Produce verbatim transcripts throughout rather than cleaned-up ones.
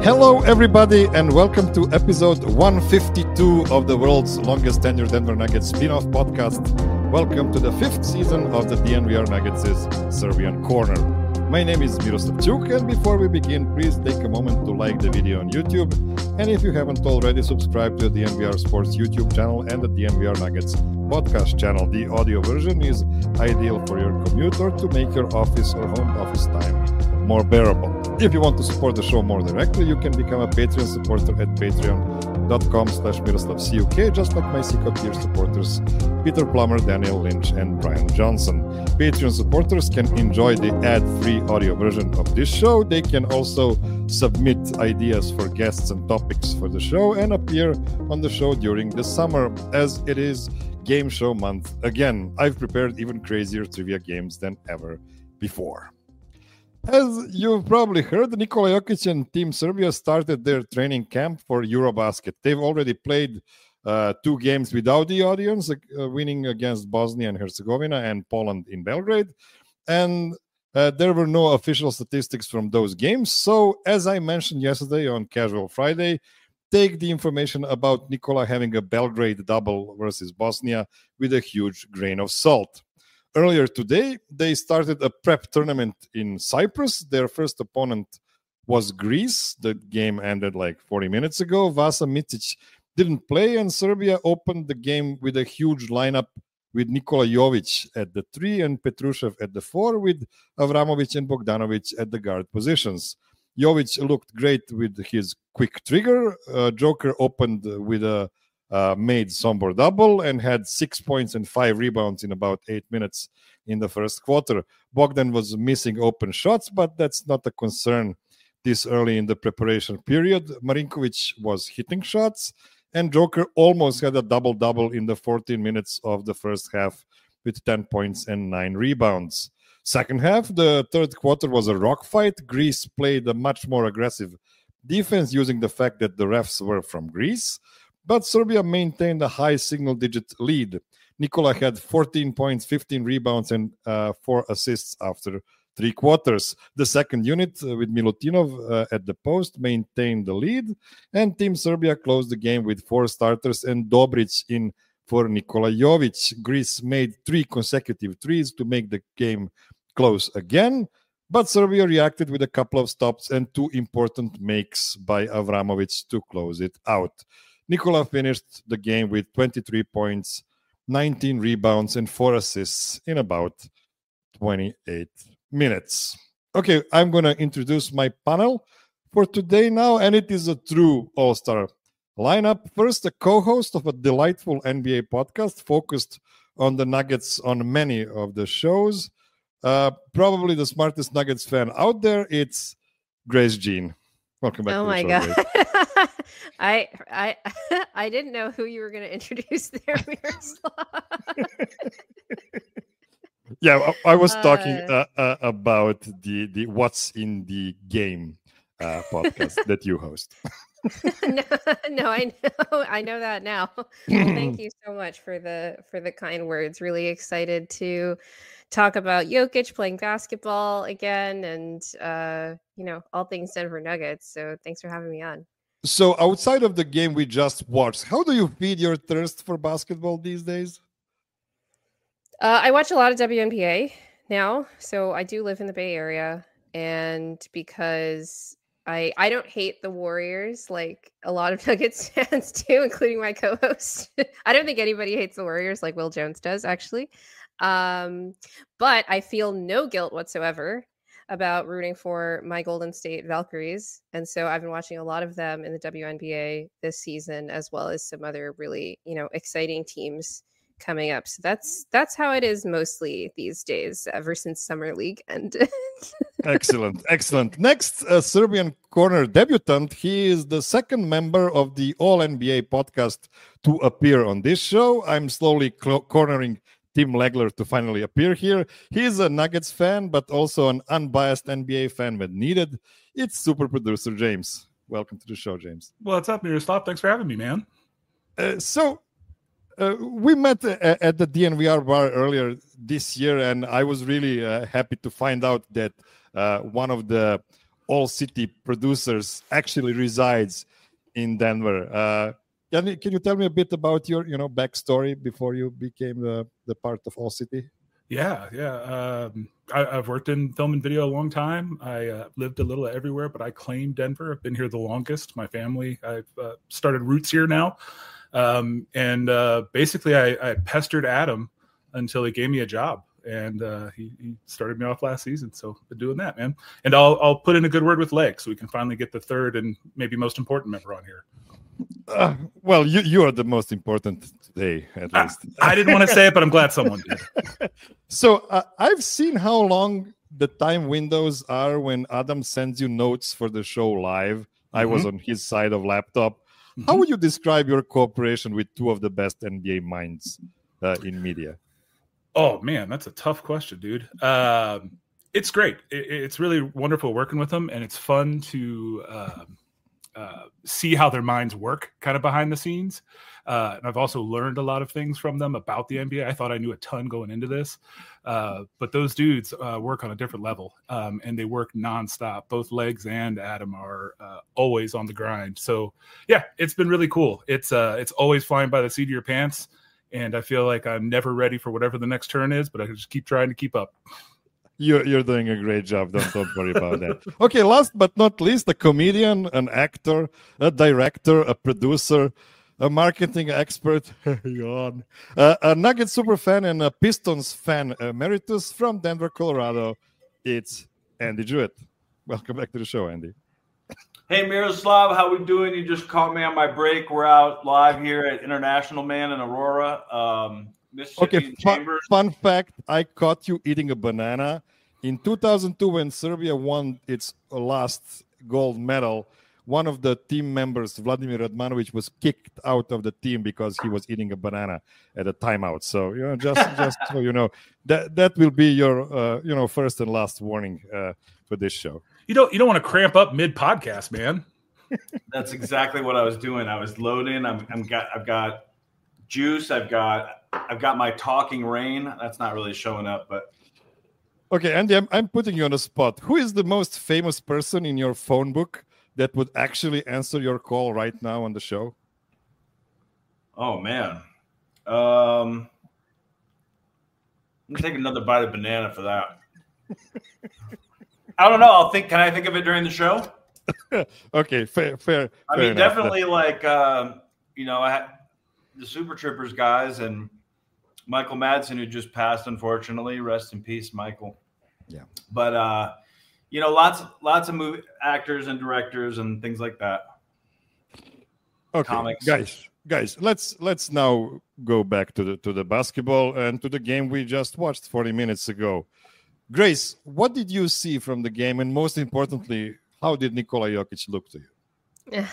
Hello, everybody, and welcome to episode one fifty-two of the world's longest tenured Denver Nuggets spin-off podcast. Welcome to the fifth season of the D N V R Nuggets' Serbian Corner. My name is Miroslav Čuk, and before we begin, please take a moment to like the video on YouTube. And if you haven't already, subscribe to the D N V R Sports YouTube channel and the D N V R Nuggets podcast channel. The audio version is ideal for your commute or to make your office or home office time more bearable. If you want to support the show more directly, you can become a Patreon supporter at patreon.com slash MiroslavCuk, just like my Secret tier supporters, Peter Plummer, Daniel Lynch, and Brian Johnson. Patreon supporters can enjoy the ad-free audio version of this show. They can also submit ideas for guests and topics for the show and appear on the show during the summer, as it is game show month. Again, I've prepared even crazier trivia games than ever before. As you've probably heard, Nikola Jokic and Team Serbia started their training camp for Eurobasket. They've already played uh, two games without the audience, uh, winning against Bosnia and Herzegovina and Poland in Belgrade. And uh, there were no official statistics from those games. So, as I mentioned yesterday on Casual Friday, take the information about Nikola having a Belgrade double versus Bosnia with a huge grain of salt. Earlier today, they started a prep tournament in Cyprus. Their first opponent was Greece. The game ended like forty minutes ago. Vasa Micic didn't play, and Serbia opened the game with a huge lineup with Nikola Jovic at the three and Petrushev at the four, with Avramovic and Bogdanovic at the guard positions. Jovic looked great with his quick trigger. Uh, Joker opened with a Uh, made Sombor double and had six points and five rebounds in about eight minutes in the first quarter. Bogdan was missing open shots, but that's not a concern this early in the preparation period. Marinkovic was hitting shots, and Joker almost had a double-double in the fourteen minutes of the first half with ten points and nine rebounds. Second half, the third quarter was a rock fight. Greece played a much more aggressive defense using the fact that the refs were from Greece. But Serbia maintained a high single-digit lead. Nikola had fourteen points, fifteen rebounds, and uh, four assists after three quarters. The second unit, uh, with Milutinov uh, at the post, maintained the lead, and Team Serbia closed the game with four starters and Dobric in for Nikola Jovic. Greece made three consecutive threes to make the game close again, but Serbia reacted with a couple of stops and two important makes by Avramovic to close it out. Nikola finished the game with twenty-three points, nineteen rebounds, and four assists in about twenty-eight minutes. Okay, I'm going to introduce my panel for today now, and it is a true all-star lineup. First, a co-host of a delightful N B A podcast focused on the Nuggets on many of the shows. Uh, probably the smartest Nuggets fan out there. It's Grace Jean. Welcome back oh to the my show, god Grace. I I I didn't know who you were going to introduce there, Miroslav. Yeah, I, I was talking Uh, uh, uh, about the the What's in the Game uh, podcast that you host. no, no, I know, I know that now. Well, thank you so much for the for the kind words. Really excited to talk about Jokic playing basketball again, and uh, you know, all things Denver Nuggets. So thanks for having me on. So, outside of the game we just watched, how do you feed your thirst for basketball these days? Uh, I watch a lot of W N B A now, so I do live in the Bay Area, and because I I don't hate the Warriors like a lot of Nuggets fans do, including my co-host. I don't think anybody hates the Warriors like Will Jones does, actually. Um, but I feel no guilt whatsoever about rooting for my Golden State Valkyries. And so I've been watching a lot of them in the W N B A this season, as well as some other really, you know, exciting teams coming up. So that's that's how it is mostly these days, ever since Summer League ended. Excellent, excellent. Next, a Serbian Corner debutant. He is the second member of the All N B A podcast to appear on this show. I'm slowly cl- cornering Tim Legler to finally appear here. He's a Nuggets fan, but also an unbiased N B A fan when needed. It's super producer James. Welcome to the show, James. What's up, Miroslav? Thanks for having me, man. Uh, so, uh, we met uh, at the D N V R bar earlier this year, and I was really uh, happy to find out that uh, one of the All City producers actually resides in Denver. Uh, can, you, can you tell me a bit about your, you know, backstory before you became the, the part of All City? Yeah, yeah. Um, I, I've worked in film and video a long time. I uh, lived a little everywhere, but I claim Denver. I've been here the longest. My family, I've uh, started roots here now. Um, and uh, basically, I, I pestered Adam until he gave me a job. And uh, he, he started me off last season. So I've been doing that, man. And I'll, I'll put in a good word with Leg so we can finally get the third and maybe most important member on here. Uh, well, you, you are the most important today, at least. I, I didn't want to say it, but I'm glad someone did. So uh, I've seen how long the time windows are when Adam sends you notes for the show live. Mm-hmm. I was on his side of laptop. Mm-hmm. How would you describe your cooperation with two of the best N B A minds uh, in media? Oh, man, that's a tough question, dude. Um, it's great. It, it's really wonderful working with them, and it's fun to uh, uh, see how their minds work kind of behind the scenes. Uh, and I've also learned a lot of things from them about the N B A. I thought I knew a ton going into this, uh, but those dudes uh, work on a different level, um, and they work nonstop. Both Legs and Adam are uh, always on the grind. So, yeah, it's been really cool. It's uh, it's always flying by the seat of your pants. And I feel like I'm never ready for whatever the next turn is, but I just keep trying to keep up. You're, you're doing a great job. Don't, don't worry about that. Okay, last but not least, a comedian, an actor, a director, a producer, a marketing expert, yawn, uh, a Nuggets super fan, and a Pistons fan emeritus from Denver, Colorado. It's Andy Jewett. Welcome back to the show, Andy. Hey, Miroslav, how we doing? You just caught me on my break. We're out live here at International Man in Aurora, um, Mississippi okay, Chambers. Fun, fun fact, I caught you eating a banana. In two thousand two, when Serbia won its last gold medal, one of the team members, Vladimir Radmanovic, was kicked out of the team because he was eating a banana at a timeout. So, you know, just just so you know, that that will be your, uh, you know, first and last warning uh, for this show. You don't you don't want to cramp up mid podcast, man. That's exactly what I was doing. I was loading. I'm, I'm got I've got juice. I've got I've got my talking rain. That's not really showing up, but okay, Andy, I'm I'm putting you on the spot. Who is the most famous person in your phone book that would actually answer your call right now on the show? Oh man, um, I'm gonna take another bite of banana for that. I don't know. I'll think. Can I think of it during the show? Okay, fair, fair. I fair mean, enough. definitely like uh, you know, I had the Super Troopers guys and Michael Madsen, who just passed, unfortunately. Rest in peace, Michael. Yeah. But uh, you know, lots, lots of movie actors and directors and things like that. Okay, Comics. guys, guys, let's let's now go back to the to the basketball and to the game we just watched forty minutes ago. Grace, what did you see from the game? And most importantly, how did Nikola Jokic look to you?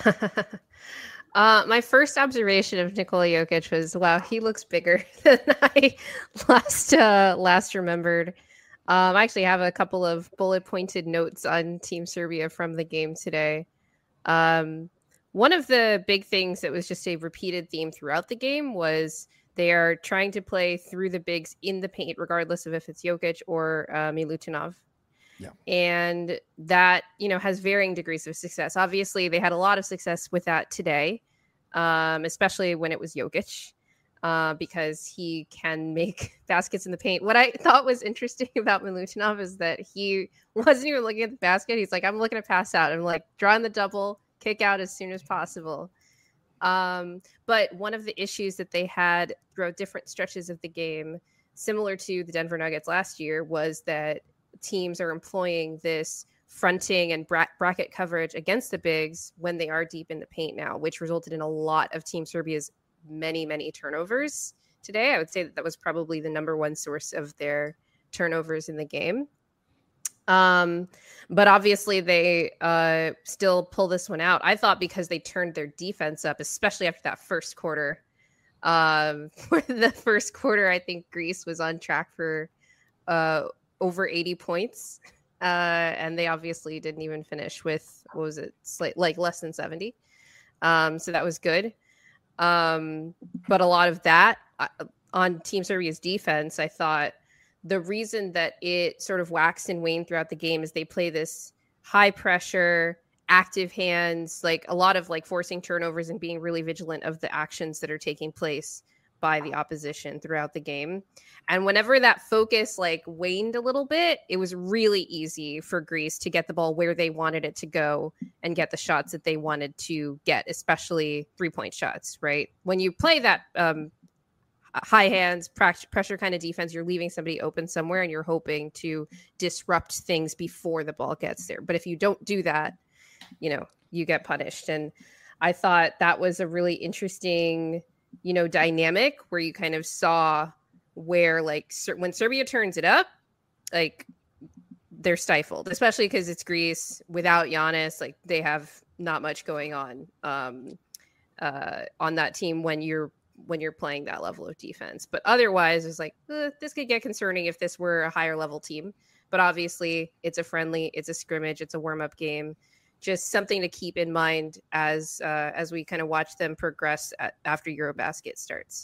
uh, my first observation of Nikola Jokic was, wow, he looks bigger than I last uh, last remembered. Um, I actually have a couple of bullet pointed notes on Team Serbia from the game today. Um, one of the big things that was just a repeated theme throughout the game was they are trying to play through the bigs in the paint, regardless of if it's Jokic or uh, Milutinov. Yeah. And that, you know, has varying degrees of success. Obviously, they had a lot of success with that today, um, especially when it was Jokic, uh, because he can make baskets in the paint. What I thought was interesting about Milutinov is that he wasn't even looking at the basket. He's like, I'm looking to pass out. I'm like, drawing the double, kick out as soon as possible. Um, but one of the issues that they had throughout different stretches of the game, similar to the Denver Nuggets last year, was that teams are employing this fronting and bra- bracket coverage against the bigs when they are deep in the paint now, which resulted in a lot of Team Serbia's many, many turnovers today. I would say that that was probably the number one source of their turnovers in the game. Um, but obviously they uh, still pull this one out. I thought because they turned their defense up, especially after that first quarter. Um, for the first quarter, I think Greece was on track for uh, over eighty points. Uh, and they obviously didn't even finish with, what was it, like, like less than seventy. Um, so that was good. Um, but a lot of that uh, on Team Serbia's defense, I thought, the reason that it sort of waxed and waned throughout the game is they play this high pressure, active hands, like a lot of like forcing turnovers and being really vigilant of the actions that are taking place by the opposition throughout the game. And whenever that focus like waned a little bit, it was really easy for Greece to get the ball where they wanted it to go and get the shots that they wanted to get, especially three-point shots, right? When you play that um, high hands, pressure kind of defense, you're leaving somebody open somewhere and you're hoping to disrupt things before the ball gets there. But if you don't do that, you know, you get punished. And I thought that was a really interesting, you know, dynamic where you kind of saw where like when Serbia turns it up, like they're stifled, especially because it's Greece without Giannis. Like they have not much going on um, uh, on that team when you're when you're playing that level of defense. But otherwise, it's like eh, this could get concerning if this were a higher level team. But obviously, it's a friendly, it's a scrimmage, it's a warm up game. Just something to keep in mind as uh, as we kind of watch them progress at, after Eurobasket starts.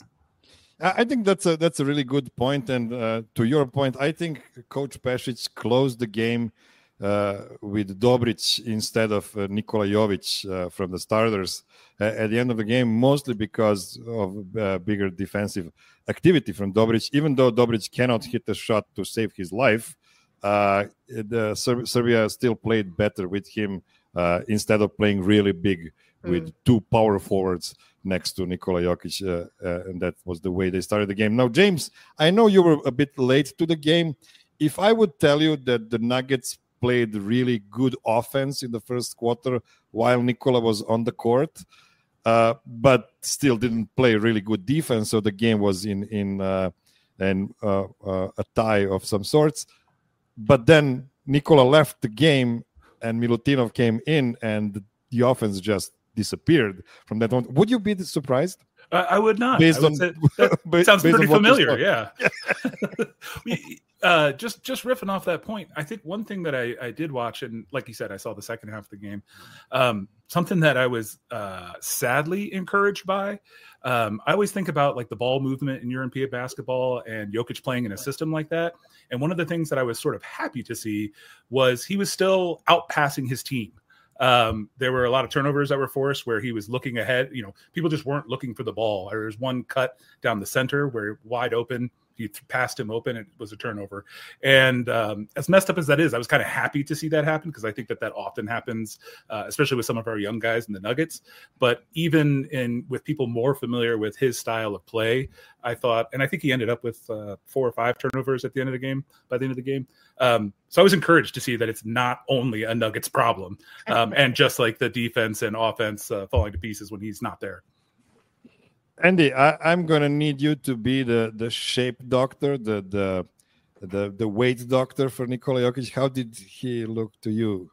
I think that's a that's a really good point, and uh, to your point, I think Coach Pešić closed the game uh, with Dobrić instead of uh, Nikola Jović uh, from the starters uh, at the end of the game, mostly because of uh, bigger defensive activity from Dobrić. Even though Dobrić cannot hit a shot to save his life, uh, the Ser- Serbia still played better with him uh, instead of playing really big with mm. two power forwards next to Nikola Jokic, uh, uh, and that was the way they started the game. Now, James, I know you were a bit late to the game. If I would tell you that the Nuggets played really good offense in the first quarter while Nikola was on the court, uh, but still didn't play really good defense, so the game was in in uh, in, uh, uh, a tie of some sorts. But then Nikola left the game, and Milutinov came in, and the offense just disappeared from that moment. Would you be surprised? Uh, I would not. Based would on, say, that based sounds pretty familiar. Yeah. we, uh, just just riffing off that point, I think one thing that I, I did watch, and like you said, I saw the second half of the game. Um, something that I was uh, sadly encouraged by. Um, I always think about like the ball movement in European basketball and Jokic playing in a system like that. And one of the things that I was sort of happy to see was he was still outpassing his team. Um, there were a lot of turnovers that were forced where he was looking ahead. You know, people just weren't looking for the ball. There was one cut down the center where wide open, he passed him open. It was a turnover. And um, as messed up as that is, I was kind of happy to see that happen because I think that that often happens, uh, especially with some of our young guys in the Nuggets. But even in with people more familiar with his style of play, I thought, and I think he ended up with uh, four or five turnovers at the end of the game, by the end of the game. Um, so I was encouraged to see that it's not only a Nuggets problem um, and just like the defense and offense uh, falling to pieces when he's not there. Andy, I, I'm going to need you to be the, the shape doctor, the, the the the weight doctor for Nikola Jokic. How did he look to you?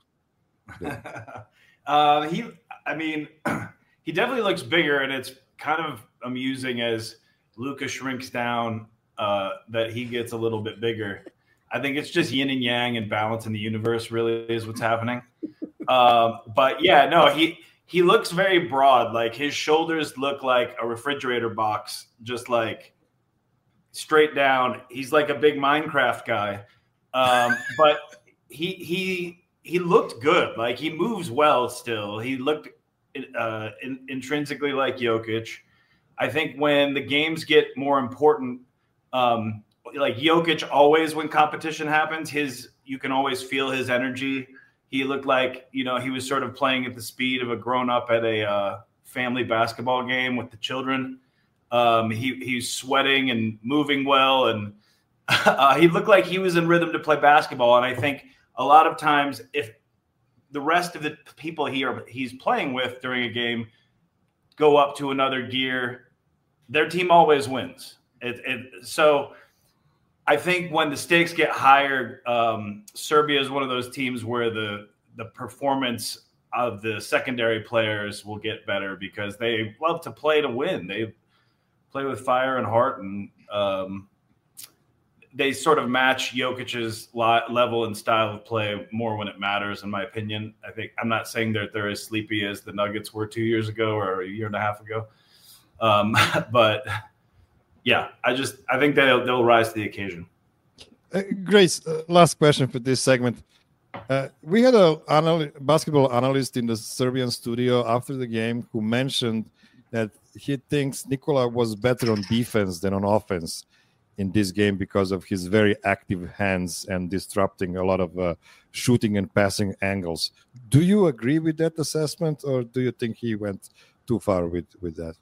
uh, he, I mean, he definitely looks bigger, and it's kind of amusing as Luka shrinks down uh, that he gets a little bit bigger. I think it's just yin and yang and balance in the universe really is what's happening. Um, but yeah, no, he he looks very broad. Like his shoulders look like a refrigerator box, just like straight down. He's like a big Minecraft guy. Um, but he he he looked good. Like he moves well still. He looked uh, in, intrinsically like Jokic. I think when the games get more important, um, like Jokic always, when competition happens, his you can always feel his energy. He looked like, you know, he was sort of playing at the speed of a grown-up at a uh, family basketball game with the children. Um, he he's sweating and moving well, and uh, he looked like he was in rhythm to play basketball. And I think a lot of times, if the rest of the people he are, he's playing with during a game go up to another gear, their team always wins. It, it, so I think when the stakes get higher, um, Serbia is one of those teams where the the performance of the secondary players will get better because they love to play to win. They play with fire and heart, and um, they sort of match Jokic's level and style of play more when it matters, in my opinion. I think I'm not saying that they're as sleepy as the Nuggets were two years ago or a year and a half ago, um, but yeah, I just I think they'll they'll rise to the occasion. Uh, Grace, uh, last question for this segment. Uh, we had a anal- basketball analyst in the Serbian studio after the game who mentioned that he thinks Nikola was better on defense than on offense in this game because of his very active hands and disrupting a lot of uh, shooting and passing angles. Do you agree with that assessment, or do you think he went too far with, with that?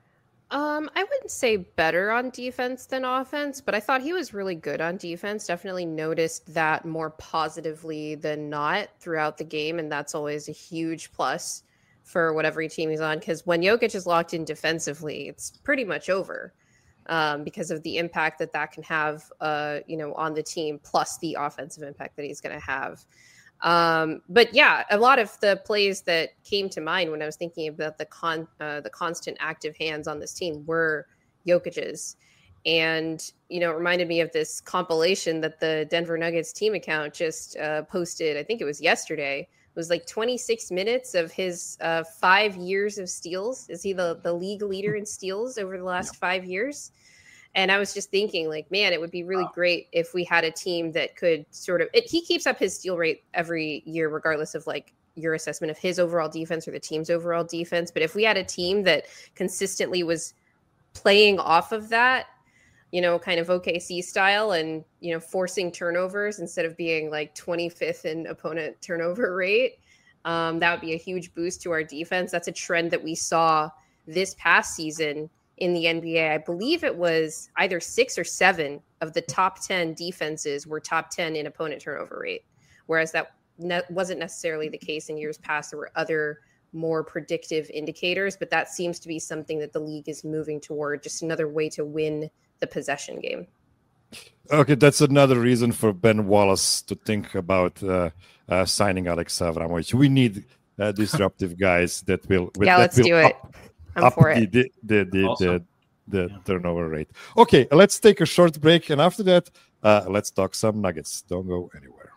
Um, I wouldn't say better on defense than offense, but I thought he was really good on defense. Definitely noticed that more positively than not throughout the game, and that's always a huge plus for whatever team he's on, because when Jokic is locked in defensively, it's pretty much over um, because of the impact that that can have, uh, you know, on the team, plus the offensive impact that he's going to have. Um, but yeah, a lot of the plays that came to mind when I was thinking about the con, uh, the constant active hands on this team were Jokic's. And, you know, it reminded me of this compilation that the Denver Nuggets team account just uh, posted. I think it was yesterday. It was like twenty-six minutes of his uh, five years of steals. Is he the, the league leader in steals over the last five years? And I was just thinking, like, man, it would be really wow. great if we had a team that could sort of it, he keeps up his steal rate every year, regardless of like your assessment of his overall defense or the team's overall defense. But if we had a team that consistently was playing off of that, you know, kind of O K C style and, you know, forcing turnovers instead of being like twenty-fifth in opponent turnover rate, um, that would be a huge boost to our defense. That's a trend that we saw this past season in the N B A. I believe it was either six or seven of the top ten defenses were top ten in opponent turnover rate, whereas that ne- wasn't necessarily the case in years past. There were other more predictive indicators, but that seems to be something that the league is moving toward, just another way to win the possession game. Okay, that's another reason for Ben Wallace to think about uh, uh, signing Alex Avramovic. We need uh, disruptive guys that will. Yeah, that let's will do it. Up- I'm up for the, it. the the the, Awesome. the, the Yeah. turnover rate. Okay, let's take a short break, and after that, uh, let's talk some Nuggets. Don't go anywhere.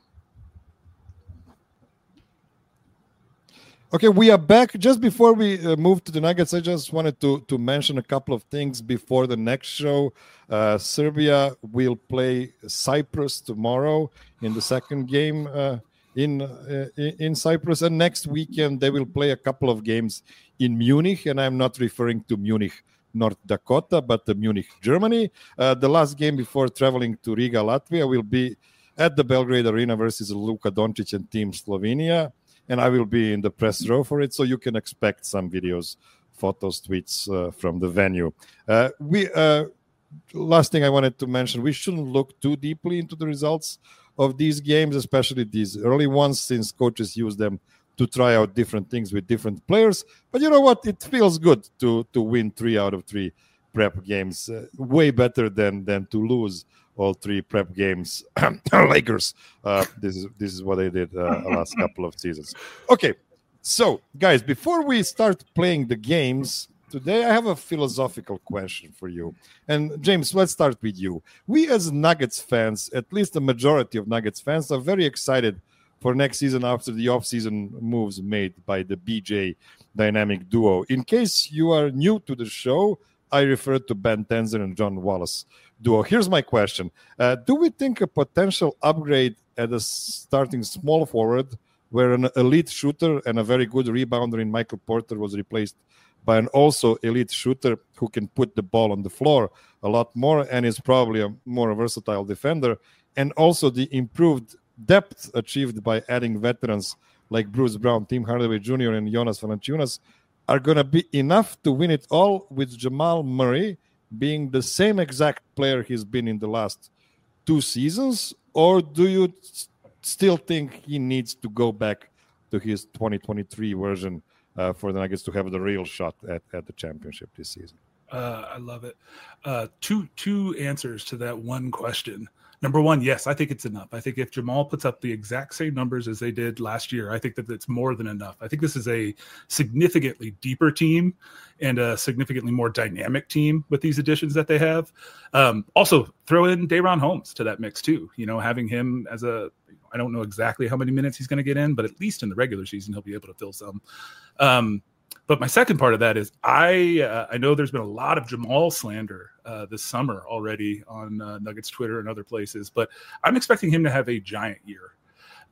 Okay, we are back. Just before we uh, move to the Nuggets, I just wanted to to mention a couple of things before the next show. Uh, Serbia will play Cyprus tomorrow in the second game uh, in uh, in Cyprus, and next weekend they will play a couple of games in Munich, and I'm not referring to Munich, North Dakota, but the Munich, Germany. Uh, the last game before traveling to Riga, Latvia, will be at the Belgrade Arena versus Luka Doncic and Team Slovenia, and I will be in the press row for it, so you can expect some videos, photos, tweets uh, from the venue. Uh, we uh, last thing I wanted to mention, we shouldn't look too deeply into the results of these games, especially these early ones, since coaches use them to try out different things with different players. But you know what? It feels good to to win three out of three prep games. Uh, way better than than to lose all three prep games. Lakers. Uh, this is this is what they did uh, the last couple of seasons. Okay, so guys, before we start playing the games today, I have a philosophical question for you. And James, let's start with you. We as Nuggets fans, at least the majority of Nuggets fans, are very excited for next season after the off-season moves made by the B J dynamic duo. In case you are new to the show, I refer to Ben Tenzer and John Wallace duo. Here's my question. Uh, do we think a potential upgrade at a starting small forward, where an elite shooter and a very good rebounder in Michael Porter was replaced by an also elite shooter who can put the ball on the floor a lot more and is probably a more versatile defender, and also the improved depth achieved by adding veterans like Bruce Brown, Tim Hardaway Junior, and Jonas Valanciunas are going to be enough to win it all, with Jamal Murray being the same exact player he's been in the last two seasons? Or do you s- still think he needs to go back to his twenty twenty-three version uh, for the Nuggets to have the real shot at, at the championship this season? Uh, I love it. Uh, two two answers to that one question. Number one, yes, I think it's enough. I think if Jamal puts up the exact same numbers as they did last year, I think that it's more than enough. I think this is a significantly deeper team and a significantly more dynamic team with these additions that they have. Um, also, throw in Day'Ron Holmes to that mix too. You know, having him as a, I don't know exactly how many minutes he's going to get in, but at least in the regular season, he'll be able to fill some. Um, But my second part of that is I uh, I know there's been a lot of Jamal slander uh, this summer already on uh, Nuggets Twitter and other places, but I'm expecting him to have a giant year.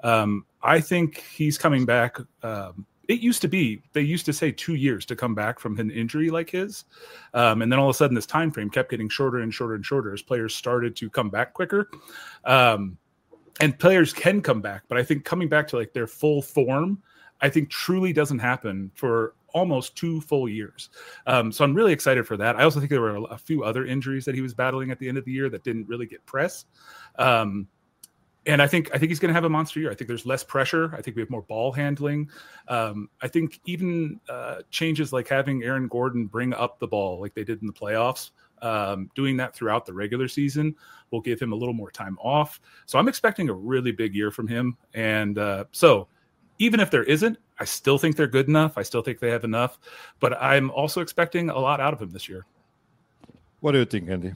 Um, I think he's coming back. Um, it used to be, they used to say two years to come back from an injury like his. Um, and then all of a sudden this time frame kept getting shorter and shorter and shorter as players started to come back quicker. Um, and players can come back, but I think coming back to like their full form, I think truly doesn't happen for almost two full years. Um, so I'm really excited for that. I also think there were a, a few other injuries that he was battling at the end of the year that didn't really get press. Um, And I think I think he's going to have a monster year. I think there's less pressure. I think we have more ball handling. Um, I think even uh, changes like having Aaron Gordon bring up the ball like they did in the playoffs, um, doing that throughout the regular season will give him a little more time off. So I'm expecting a really big year from him. And uh, so even if there isn't, I still think they're good enough. I still think they have enough. But I'm also expecting a lot out of him this year. What do you think, Andy?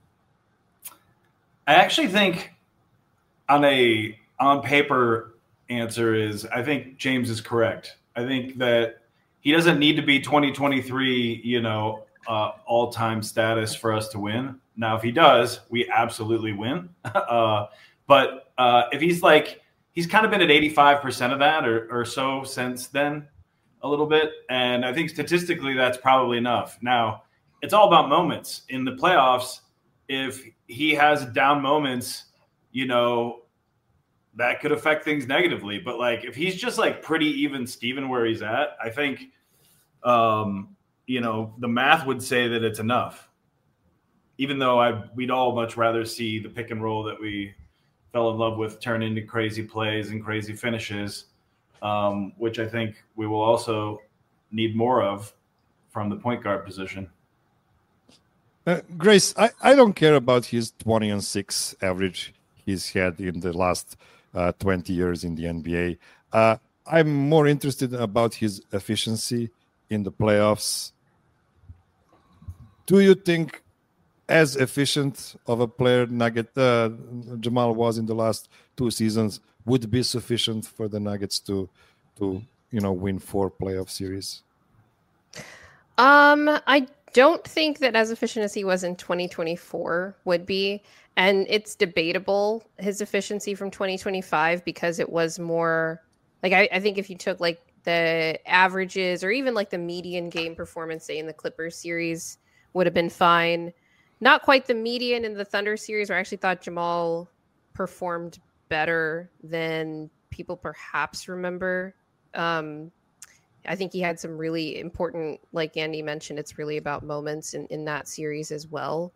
I actually think on a on paper answer is I think James is correct. I think that he doesn't need to be twenty twenty-three, you know, uh, all-time status for us to win. Now, if he does, we absolutely win. uh, but uh, if he's like, he's kind of been at eighty-five percent of that or, or so since then a little bit. And I think statistically that's probably enough. Now, it's all about moments. In the playoffs, if he has down moments, you know, that could affect things negatively. But like, if he's just like pretty even Steven where he's at, I think, um, you know, the math would say that it's enough. Even though I, we'd all much rather see the pick and roll that we fell in love with turn into crazy plays and crazy finishes, um, which I think we will also need more of from the point guard position. Uh, Grace, I, I don't care about his twenty and six average he's had in the last uh, twenty years in the N B A. Uh, I'm more interested about his efficiency in the playoffs. Do you think as efficient of a player Nugget uh, Jamal was in the last two seasons would be sufficient for the Nuggets to, to you know, win four playoff series? Um, I don't think that as efficient as he was in twenty twenty-four would be. And it's debatable, his efficiency from twenty twenty-five, because it was more like, I, I think if you took like the averages or even like the median game performance, say in the Clippers series, would have been fine. Not quite the median in the Thunder series, where I actually thought Jamal performed better than people perhaps remember. Um, I think he had some really important, like Andy mentioned, it's really about moments in, in that series as well.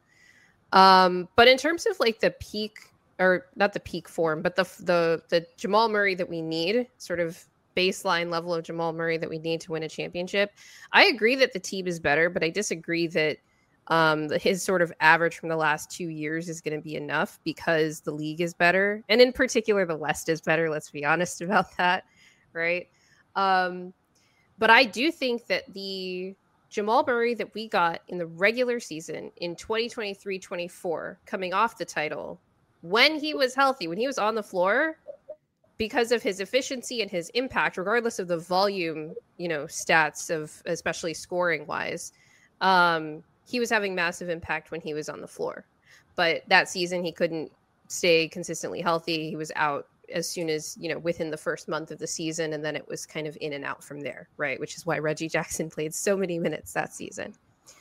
Um, but in terms of like the peak, or not the peak form, but the the the Jamal Murray that we need, sort of baseline level of Jamal Murray that we need to win a championship, I agree that the team is better, but I disagree that um, his sort of average from the last two years is going to be enough, because the league is better. And in particular, the West is better. Let's be honest about that. Right. Um, but I do think that the Jamal Murray that we got in the regular season in twenty twenty-three twenty-four, coming off the title, when he was healthy, when he was on the floor, because of his efficiency and his impact, regardless of the volume, you know, stats of especially scoring wise, um, he was having massive impact when he was on the floor. But that season, he couldn't stay consistently healthy. He was out as soon as, you know, within the first month of the season. And then it was kind of in and out from there, right? Which is why Reggie Jackson played so many minutes that season.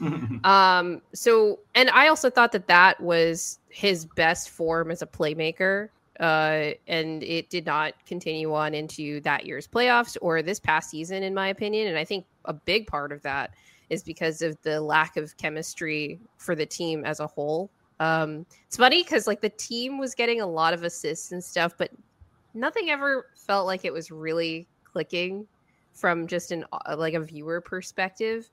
um, so, and I also thought that that was his best form as a playmaker. Uh, and it did not continue on into that year's playoffs or this past season, in my opinion. And I think a big part of that is because of the lack of chemistry for the team as a whole. Um, it's funny because like the team was getting a lot of assists and stuff, but nothing ever felt like it was really clicking from just an like a viewer perspective.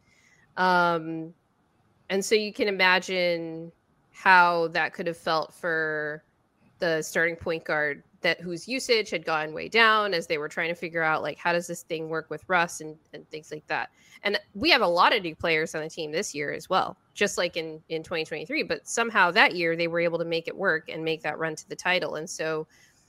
Um, and so you can imagine how that could have felt for the starting point guard that whose usage had gone way down as they were trying to figure out like, how does this thing work with Russ and, and things like that. And we have a lot of new players on the team this year as well, just like in, in twenty twenty-three, but somehow that year they were able to make it work and make that run to the title. And so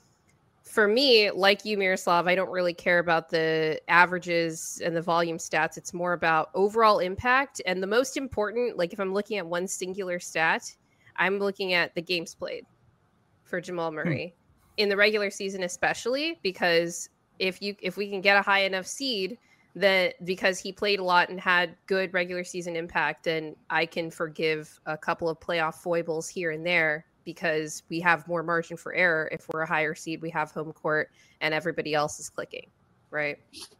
for me, like you, Miroslav, I don't really care about the averages and the volume stats. It's more about overall impact. And the most important, like if I'm looking at one singular stat, I'm looking at the games played for Jamal Murray. Hmm. in the regular season, especially because if you if we can get a high enough seed, that because he played a lot and had good regular season impact, and I can forgive a couple of playoff foibles here and there because we have more margin for error. If we're a higher seed, we have home court and everybody else is clicking, right?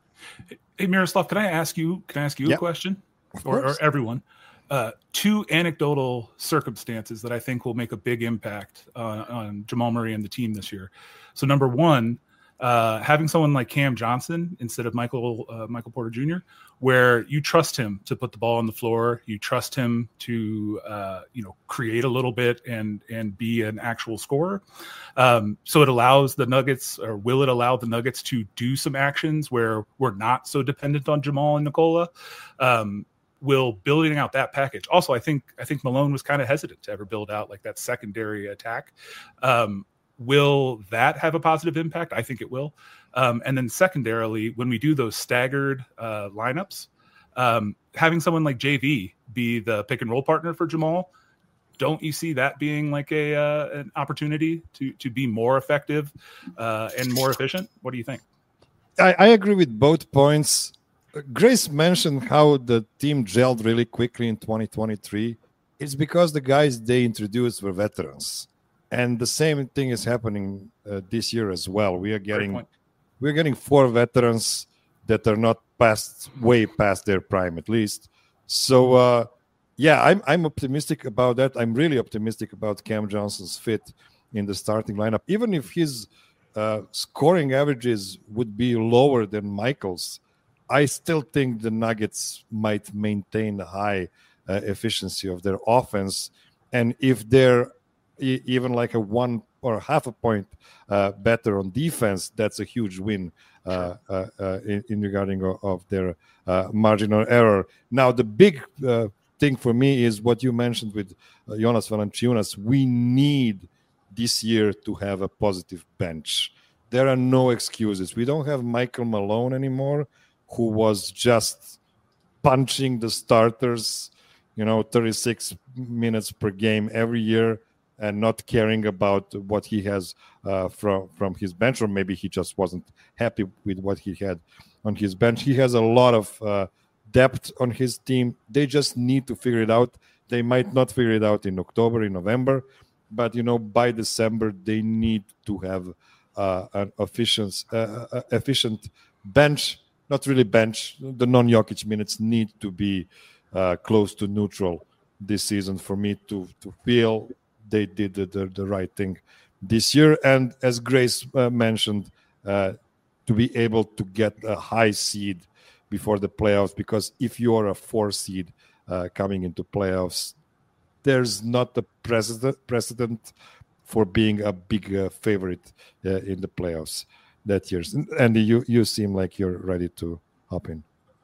Hey, Miroslav, can I ask you, can I ask you Yep. a question or, or everyone? Uh, two anecdotal circumstances that I think will make a big impact uh, on Jamal Murray and the team this year. So number one, uh, having someone like Cam Johnson instead of Michael uh, Michael Porter Junior, where you trust him to put the ball on the floor, you trust him to uh, you know create a little bit and and be an actual scorer. Um, so it allows the Nuggets, or will it allow the Nuggets to do some actions where we're not so dependent on Jamal and Nikola? Um, will building out that package. Also, I think I think Malone was kind of hesitant to ever build out like that secondary attack. Um, will that have a positive impact? I think it will. Um, and then secondarily, when we do those staggered uh, lineups, um, having someone like J V be the pick and roll partner for Jamal, don't you see that being like a uh, an opportunity to to be more effective uh, and more efficient? What do you think? I, I agree with both points. Grace mentioned how the team gelled really quickly in twenty twenty-three. It's because the guys they introduced were veterans, and the same thing is happening uh, this year as well. We are getting we're getting four veterans that are not past way past their prime, at least. So uh, yeah, I'm I'm optimistic about that. I'm really optimistic about Cam Johnson's fit in the starting lineup, even if his uh, scoring averages would be lower than Michael's. I still think the Nuggets might maintain the high uh, efficiency of their offense. And if they're e- even like a one or half a point uh, better on defense, that's a huge win uh, uh, uh, in, in regarding of, of their uh, marginal error. Now, the big uh, thing for me is what you mentioned with uh, Jonas Valanciunas. We need this year to have a positive bench. There are no excuses. We don't have Michael Malone anymore, who was just punching the starters, you know, thirty-six minutes per game every year and not caring about what he has uh, from, from his bench, or maybe he just wasn't happy with what he had on his bench. He has a lot of uh, depth on his team. They just need to figure it out. They might not figure it out in October, in November, but, you know, by December, they need to have uh, an efficient, uh, efficient bench. Not really bench. The non-Jokic minutes need to be uh, close to neutral this season for me to, to feel they did the, the, the right thing this year. And as Grace uh, mentioned, uh, to be able to get a high seed before the playoffs, because if you're a four seed uh, coming into playoffs, there's not a precedent, precedent for being a big uh, favorite uh, in the playoffs that year. Andy, you, you seem like you're ready to hop in.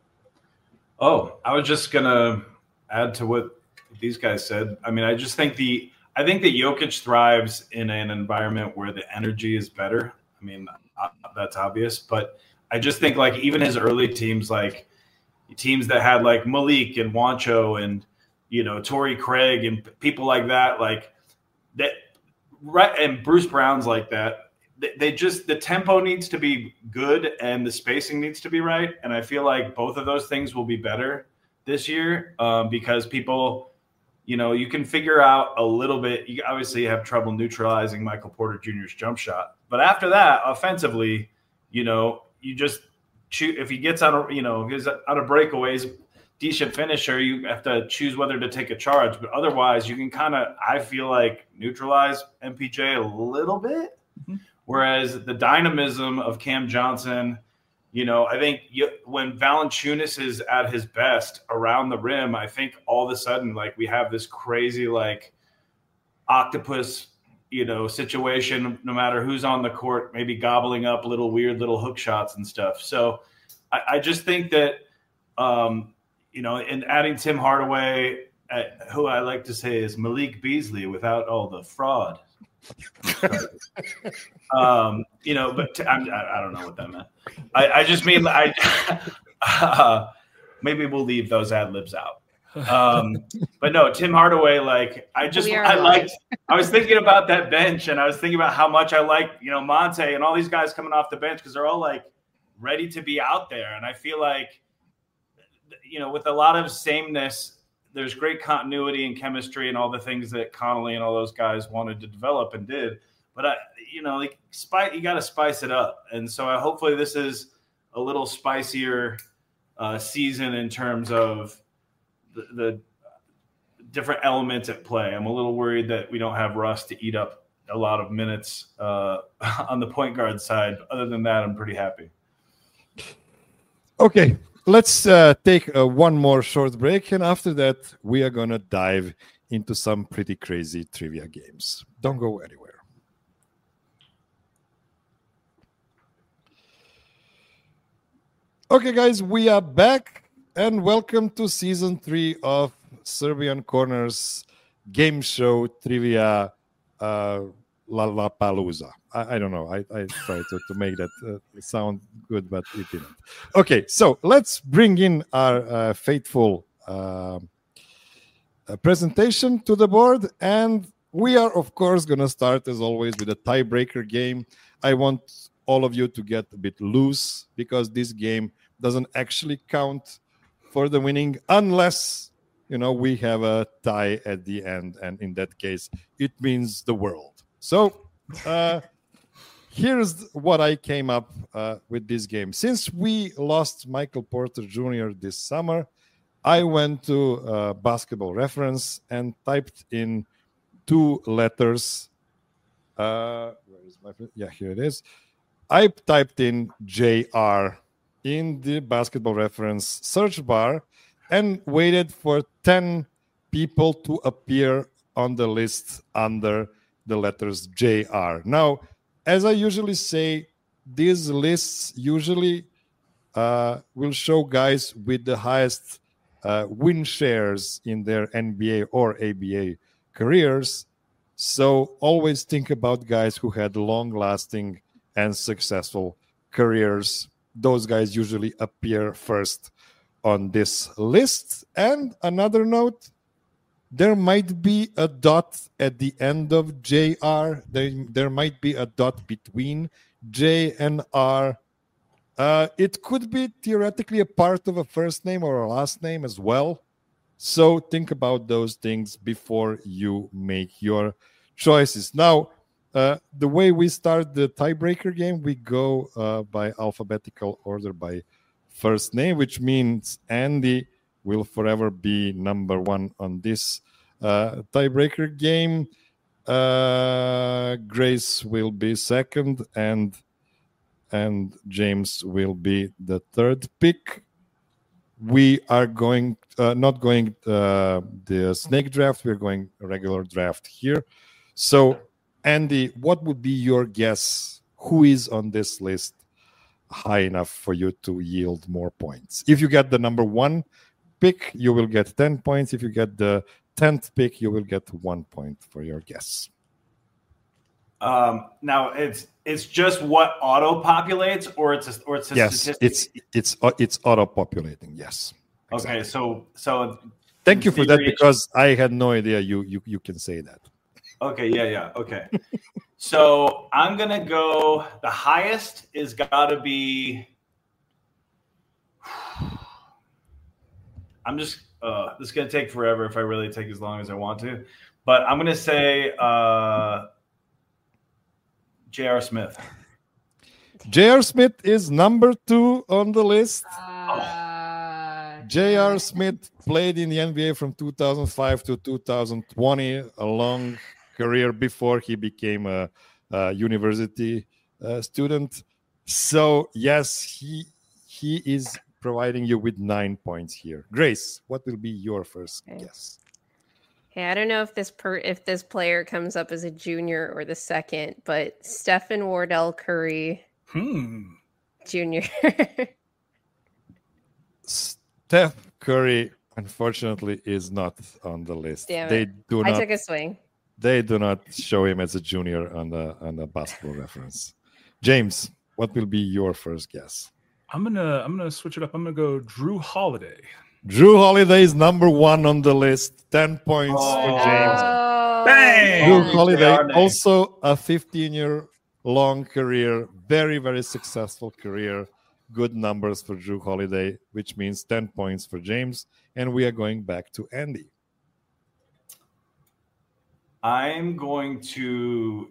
Oh, I was just gonna add to what these guys said. I mean, I just think the I think that Jokic thrives in an environment where the energy is better. I mean, uh, that's obvious, but I just think like even his early teams, like teams that had like Malik and Juancho and you know Torrey Craig and people like that, like that, right? And Bruce Brown's like that. They just, the tempo needs to be good and the spacing needs to be right. And I feel like both of those things will be better this year um, because people, you know, you can figure out a little bit. You obviously have trouble neutralizing Michael Porter Junior's jump shot. But after that, offensively, you know, you just choose, if he gets out of, you know, he's out of breakaways, decent finisher, you have to choose whether to take a charge. But otherwise, you can kind of, I feel like, neutralize M P J a little bit. Mm-hmm. Whereas the dynamism of Cam Johnson, you know, I think you, when Valanciunas is at his best around the rim, I think all of a sudden, like, we have this crazy, like, octopus, you know, situation, no matter who's on the court, maybe gobbling up little weird little hook shots and stuff. So I, I just think that, um, you know, and adding Tim Hardaway, uh, who I like to say is Malik Beasley without all the fraud. um, you know, but t- I'm, I, I don't know what that meant. I, I just mean, I uh, maybe we'll leave those ad libs out. Um, but no, Tim Hardaway, like I just I liked I was thinking about that bench, and I was thinking about how much I like, you know, Monte and all these guys coming off the bench because they're all like ready to be out there. And I feel like, you know, with a lot of sameness, there's great continuity and chemistry and all the things that Connolly and all those guys wanted to develop and did. But I, you know, like spice, you got to spice it up. And so I, hopefully this is a little spicier uh, season in terms of the, the different elements at play. I'm a little worried that we don't have Russ to eat up a lot of minutes uh, on the point guard side. Other than that, I'm pretty happy. Okay, let's uh, take uh, one more short break. And after that, we are going to dive into some pretty crazy trivia games. Don't go anywhere. Okay, guys, we are back. And welcome to season three of Serbian Corner's game show trivia uh, Lollapalooza. I, I don't know. I, I tried to, to make that uh, sound good, but it didn't. Okay, so let's bring in our uh, faithful uh, uh, presentation to the board. And we are, of course, going to start, as always, with a tiebreaker game. I want all of you to get a bit loose because this game doesn't actually count for the winning unless, you know, we have a tie at the end. And in that case, it means the world. So uh, here's what I came up uh, with this game. Since we lost Michael Porter Junior this summer, I went to uh, Basketball Reference and typed in two letters. Uh, where is my, yeah, here it is. I typed in J R in the Basketball Reference search bar and waited for ten people to appear on the list under the letters J R. Now, as I usually say, these lists usually uh, will show guys with the highest uh, win shares in their N B A or A B A careers. So always think about guys who had long-lasting and successful careers. Those guys usually appear first on this list. And another note, there might be a dot at the end of J R. There, there might be a dot between J and R. Uh, it could be theoretically a part of a first name or a last name as well. So think about those things before you make your choices. Now, Uh, the way we start the tiebreaker game, we go uh, by alphabetical order by first name, which means Andy will forever be number one on this uh, tiebreaker game. Uh, Grace will be second, and and James will be the third pick. We are going uh, not going uh, the snake draft. We're going regular draft here. So, Andy, what would be your guess? Who is on this list high enough for you to yield more points? If you get the number one pick, you will get ten points. If you get the tenth pick, you will get one point for your guess. Um, now it's it's just what auto populates, or it's a, or it's a yes, statistic? it's it's it's auto populating. Yes. Exactly. Okay, so so thank you for that, because I had no idea you you you can say that. Okay, yeah, yeah, okay. So I'm gonna go. The highest is gotta be. I'm just. Uh, this is gonna take forever if I really take as long as I want to, but I'm gonna say uh, J R. Smith. J R. Smith is number two on the list. Uh, J R. Smith played in the N B A from two thousand five to two thousand twenty, a long career before he became a, a university uh, student. So yes, he he is providing you with nine points here. Grace, what will be your first okay. guess? Hey, I don't know if this per if this player comes up as a junior or the second, but Stephen Wardell Curry, hmm. Junior Steph Curry, unfortunately, is not on the list. Damn it. They do not. I took a swing. They do not show him as a junior on the on the Basketball Reference. James, what will be your first guess? I'm gonna I'm gonna switch it up. I'm gonna go Drew Holiday. Jrue Holiday is number one on the list. ten points Oh. for James. Oh, Bang! Jrue man. Holiday, J R. also a fifteen-year-long career, very, very successful career. Good numbers for Jrue Holiday, which means ten points for James. And we are going back to Andy. I'm going to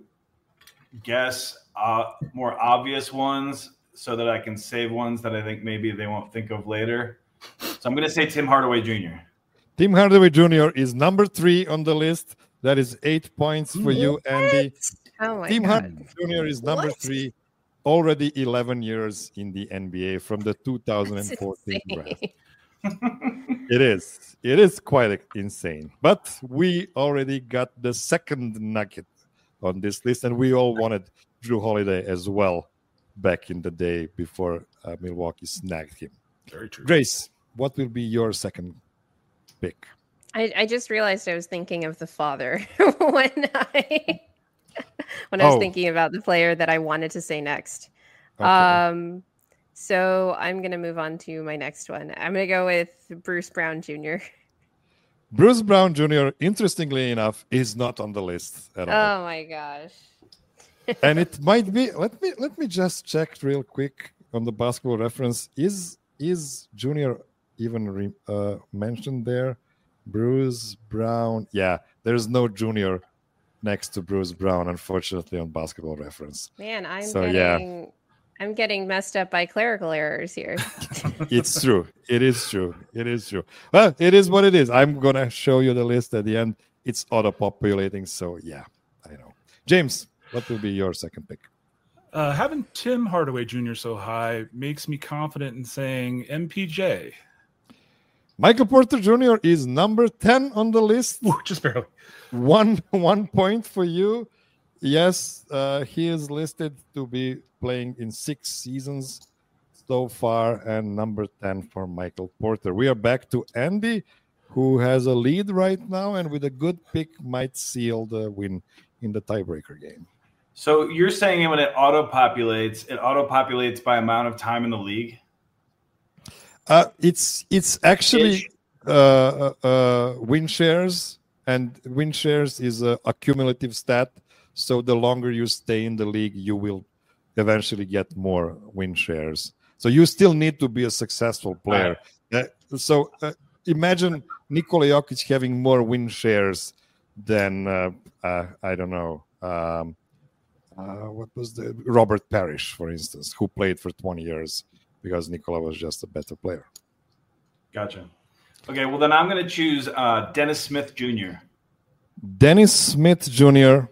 guess uh, more obvious ones so that I can save ones that I think maybe they won't think of later. So I'm going to say Tim Hardaway Junior Tim Hardaway Junior is number three on the list. That is eight points for you, Andy. Oh my Tim god. Hardaway Junior is number What? three, already eleven years in the N B A from the two thousand fourteen That's draft. insane. It is. It is quite insane. But we already got the second nugget on this list, and we all wanted Jrue Holiday as well back in the day before uh, Milwaukee snagged him. Very true. Grace, what will be your second pick? I, I just realized I was thinking of the father when I when I was Oh. thinking about the player that I wanted to say next. Okay. Um, so I'm gonna move on to my next one. I'm gonna go with Bruce Brown Junior Bruce Brown Junior, interestingly enough, is not on the list at all. Oh my gosh. And it might be. Let me let me just check real quick on the Basketball Reference. Is is Junior even re, uh, mentioned there? Bruce Brown. Yeah, there's no Junior next to Bruce Brown, unfortunately, on Basketball Reference. Man, I'm So, yeah. getting I'm getting messed up by clerical errors here. It's true. It is true. It is true. Well, it is what it is. I'm gonna show you the list at the end. It's auto-populating, so yeah, I know. James, what will be your second pick? Uh, having Tim Hardaway Junior so high makes me confident in saying M P J. Michael Porter Junior is number ten on the list. Ooh, just barely. One one point for you. Yes, uh, he is listed to be playing in six seasons so far, and number ten for Michael Porter. We are back to Andy, who has a lead right now, and with a good pick might seal the win in the tiebreaker game. So you're saying when it auto-populates, it auto-populates by amount of time in the league? Uh, it's it's actually Ish. uh, uh, uh, win shares, and win shares is a, a cumulative stat. So the longer you stay in the league, you will eventually get more win shares. So you still need to be a successful player. Uh, so uh, imagine Nikola Jokic having more win shares than uh, uh, I don't know. Um, uh, what was the Robert Parrish, for instance, who played for twenty years because Nikola was just a better player. Gotcha. Okay, well then I'm going to choose uh, Dennis Smith Junior Dennis Smith Junior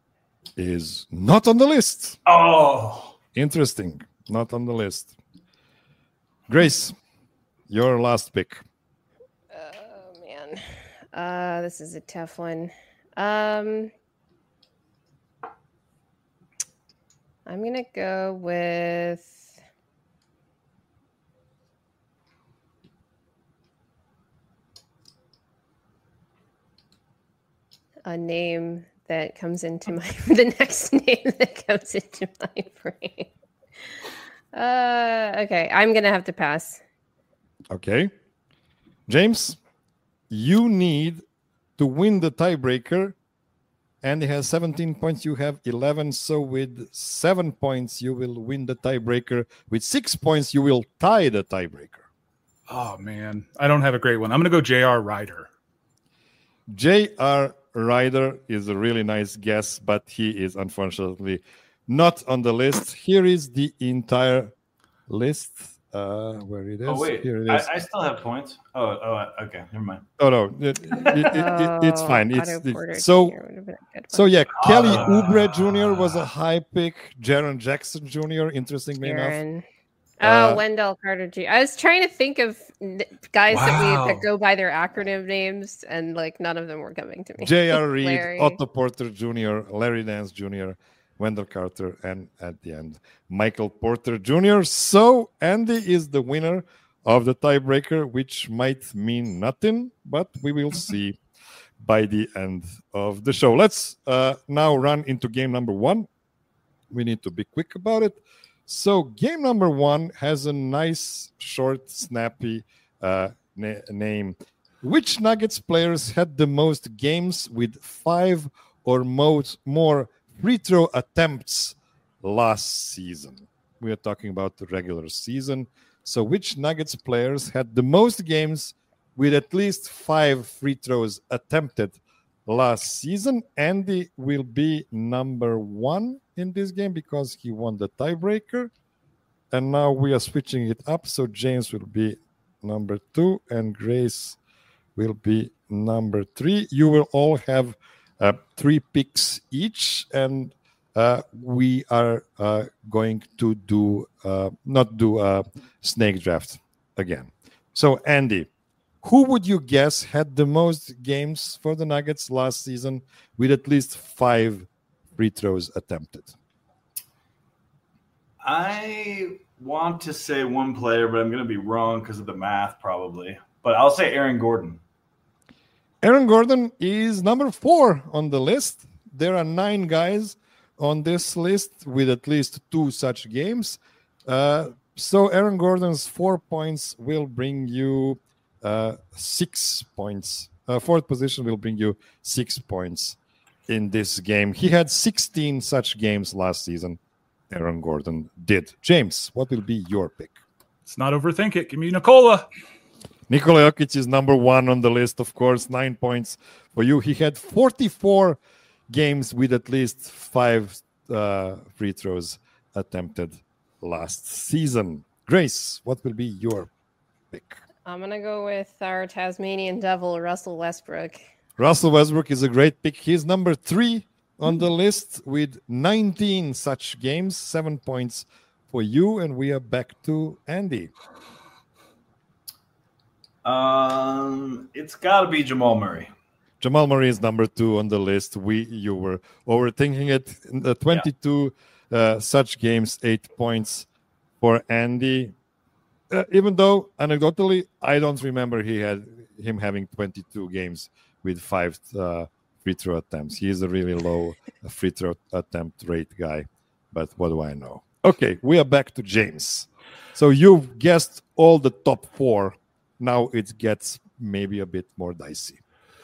is not on the list. Oh, Interesting. Not on the list. Grace, your last pick. Oh man. Uh this is a tough one. Um I'm gonna go with a name that comes into my the next name that comes into my brain. Uh okay, I'm gonna have to pass. Okay. James, you need to win the tiebreaker. Andy has seventeen points. You have eleven. So with seven points, you will win the tiebreaker. With six points, you will tie the tiebreaker. Oh man, I don't have a great one. I'm gonna go J R Ryder. J R Ryder is a really nice guess, but he is unfortunately not on the list. Here is the entire list. Uh, where it is? oh wait, Here it I, is. I still have points. Oh, oh, okay, never mind. Oh no, it, it, it, it, it's Oh, fine. It's, Otto Porter it's so Junior would have been a good so one. yeah. Kelly Ah. Oubre Junior was a high pick. Jaron Jackson Junior Interestingly enough, Aaron. Uh, Oh, Wendell Carter Junior I was trying to think of n- guys that Wow. we that go by their acronym names, and like none of them were coming to me. J R Reed, Larry. Otto Porter Junior, Larry Nance Junior, Wendell Carter, and at the end, Michael Porter Junior So Andy is the winner of the tiebreaker, which might mean nothing, but we will see by the end of the show. Let's uh, now run into game number one. We need to be quick about it. So game number one has a nice, short, snappy uh, na- name. Which Nuggets players had the most games with five or most more free throw attempts last season? We are talking about the regular season. So which Nuggets players had the most games with at least five free throws attempted last season? Andy will be number one in this game because he won the tiebreaker. And now we are switching it up. So James will be number two and Grace will be number three. You will all have uh, three picks each. And uh, we are uh, going to do, uh, not do a snake draft again. So Andy, who would you guess had the most games for the Nuggets last season with at least five free throws attempted? I want to say one player, but I'm going to be wrong because of the math probably. But I'll say Aaron Gordon. Aaron Gordon is number four on the list. There are nine guys on this list with at least two such games. Uh, so Aaron Gordon's four points will bring you uh, six points. Uh, fourth position will bring you six points in this game. He had sixteen such games last season. Aaron Gordon did. James, what will be your pick? Let's not overthink it. Give me Nikola. Nikola Jokic is number one on the list, of course. Nine points for you. He had forty-four games with at least five uh, free throws attempted last season. Grace, what will be your pick? I'm going to go with our Tasmanian devil, Russell Westbrook. Russell Westbrook is a great pick. He's number three on the list with nineteen such games, seven points for you. And we are back to Andy. Um, it's got to be Jamal Murray. Jamal Murray is number two on the list. We you were overthinking it. In the twenty-two yeah. uh, such games, eight points for Andy. Uh, even though anecdotally, I don't remember he had him having twenty-two games with five uh, free throw attempts. He is a really low free throw attempt rate guy. But what do I know? Okay, we are back to James. So you've guessed all the top four. Now it gets maybe a bit more dicey.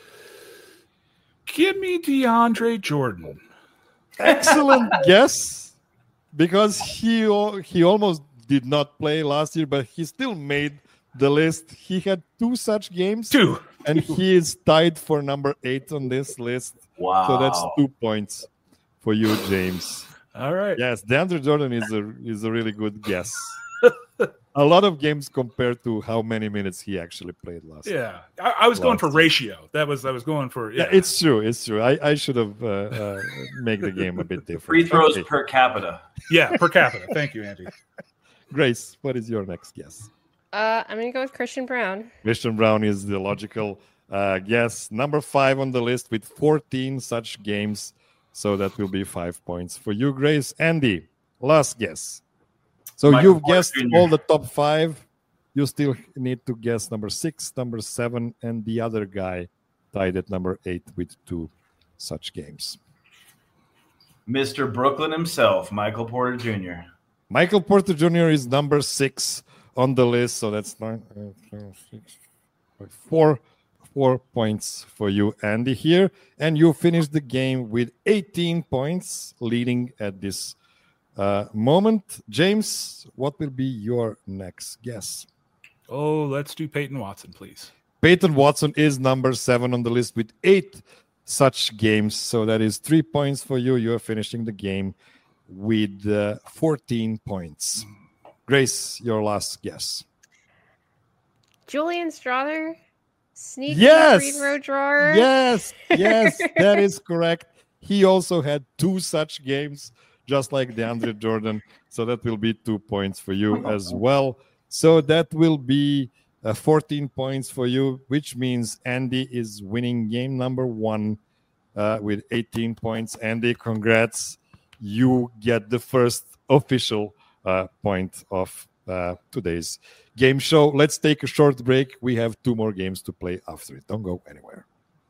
Give me DeAndre Jordan. Excellent guess, because he he almost did not play last year, but he still made the list. He had two such games. Two. And he is tied for number eight on this list. Wow. So that's two points for you, James. All right. Yes, DeAndre Jordan is a is a really good guess. A lot of games compared to how many minutes he actually played last year. Yeah, I, I was going for year. ratio. That was I was going for. Yeah, yeah it's true. It's true. I, I should have uh, uh, made the game a bit different. Free throws okay. per capita. Yeah, per capita. Thank you, Andy. Grace, what is your next guess? Uh, I'm going to go with Christian Brown. Christian Brown is the logical uh, guess. Number five on the list with fourteen such games. So that will be five points for you, Grace. Andy, last guess. So Michael you've Porter guessed Junior all the top five. You still need to guess number six, number seven, and the other guy tied at number eight with two such games. Mister Brooklyn himself, Michael Porter Junior Michael Porter Junior is number six on the list. So that's nine, uh, six, five, four, four points for you, Andy, here. And you finished the game with eighteen points, leading at this Uh, moment. James, what will be your next guess? Oh, let's do Peyton Watson, please. Peyton Watson is number seven on the list with eight such games. So that is three points for you. You're finishing the game with uh, fourteen points. Grace, your last guess. Julian Strother, sneaky Yes! free throw drawer. Yes, yes, that is correct. He also had two such games, just like DeAndre Jordan. So that will be two points for you as well. So that will be uh, fourteen points for you, which means Andy is winning game number one uh, with eighteen points. Andy, congrats. You get the first official uh, point of uh, today's game show. Let's take a short break. We have two more games to play after it. Don't go anywhere.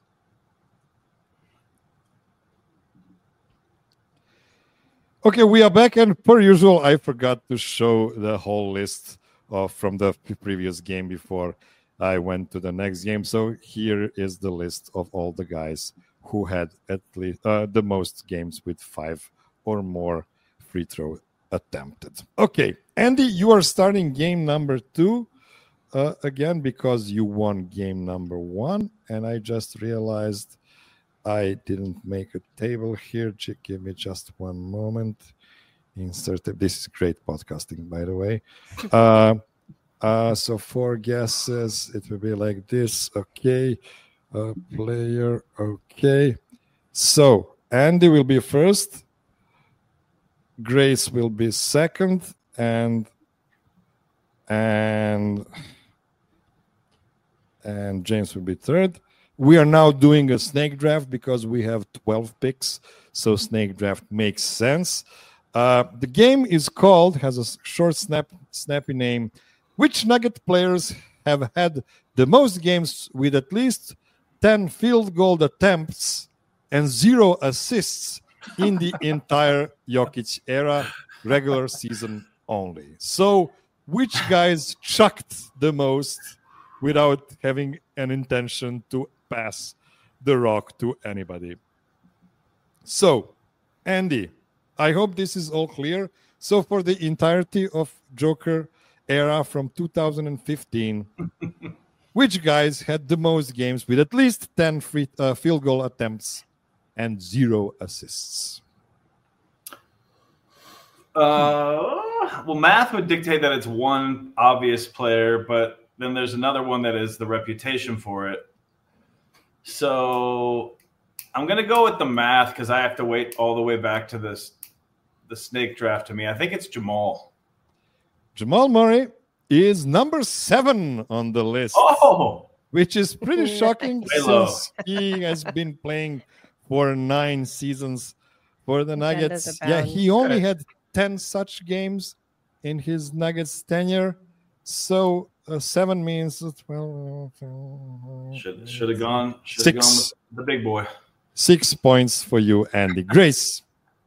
Okay, we are back, and per usual, I forgot to show the whole list of from the previous game before I went to the next game. So here is the list of all the guys who had at least uh, the most games with five or more free throw attempted. Okay, Andy, you are starting game number two uh, again because you won game number one. And I just realized I didn't make a table here. Give me just one moment. Insert. This is great podcasting, by the way. Uh, uh, so four guesses. It will be like this. Okay. Uh, player. Okay. So Andy will be first. Grace will be second, and and and James will be third. We are now doing a snake draft because we have twelve picks, so snake draft makes sense. Uh, the game is called, has a short, snap, snappy name. Which Nugget players have had the most games with at least ten field goal attempts and zero assists in the entire Jokic era, regular season only? So, which guys chucked the most without having an intention to pass the rock to anybody? So, Andy, I hope this is all clear. So, for the entirety of Joker era from two thousand fifteen, which guys had the most games with at least ten free, uh, field goal attempts and zero assists? Uh, well, math would dictate that it's one obvious player, but then there's another one that is the reputation for it. So I'm going to go with the math because I have to wait all the way back to this the snake draft to me. I think it's Jamal. Jamal Murray is number seven on the list. Oh! Which is pretty shocking Way low. since he has been playing for nine seasons for the Nuggets. Yeah, he only had ten such games in his Nuggets tenure. So uh, seven means twelve. Should should have gone. Should Six. have gone with the big boy. Six points for you, Andy. Grace,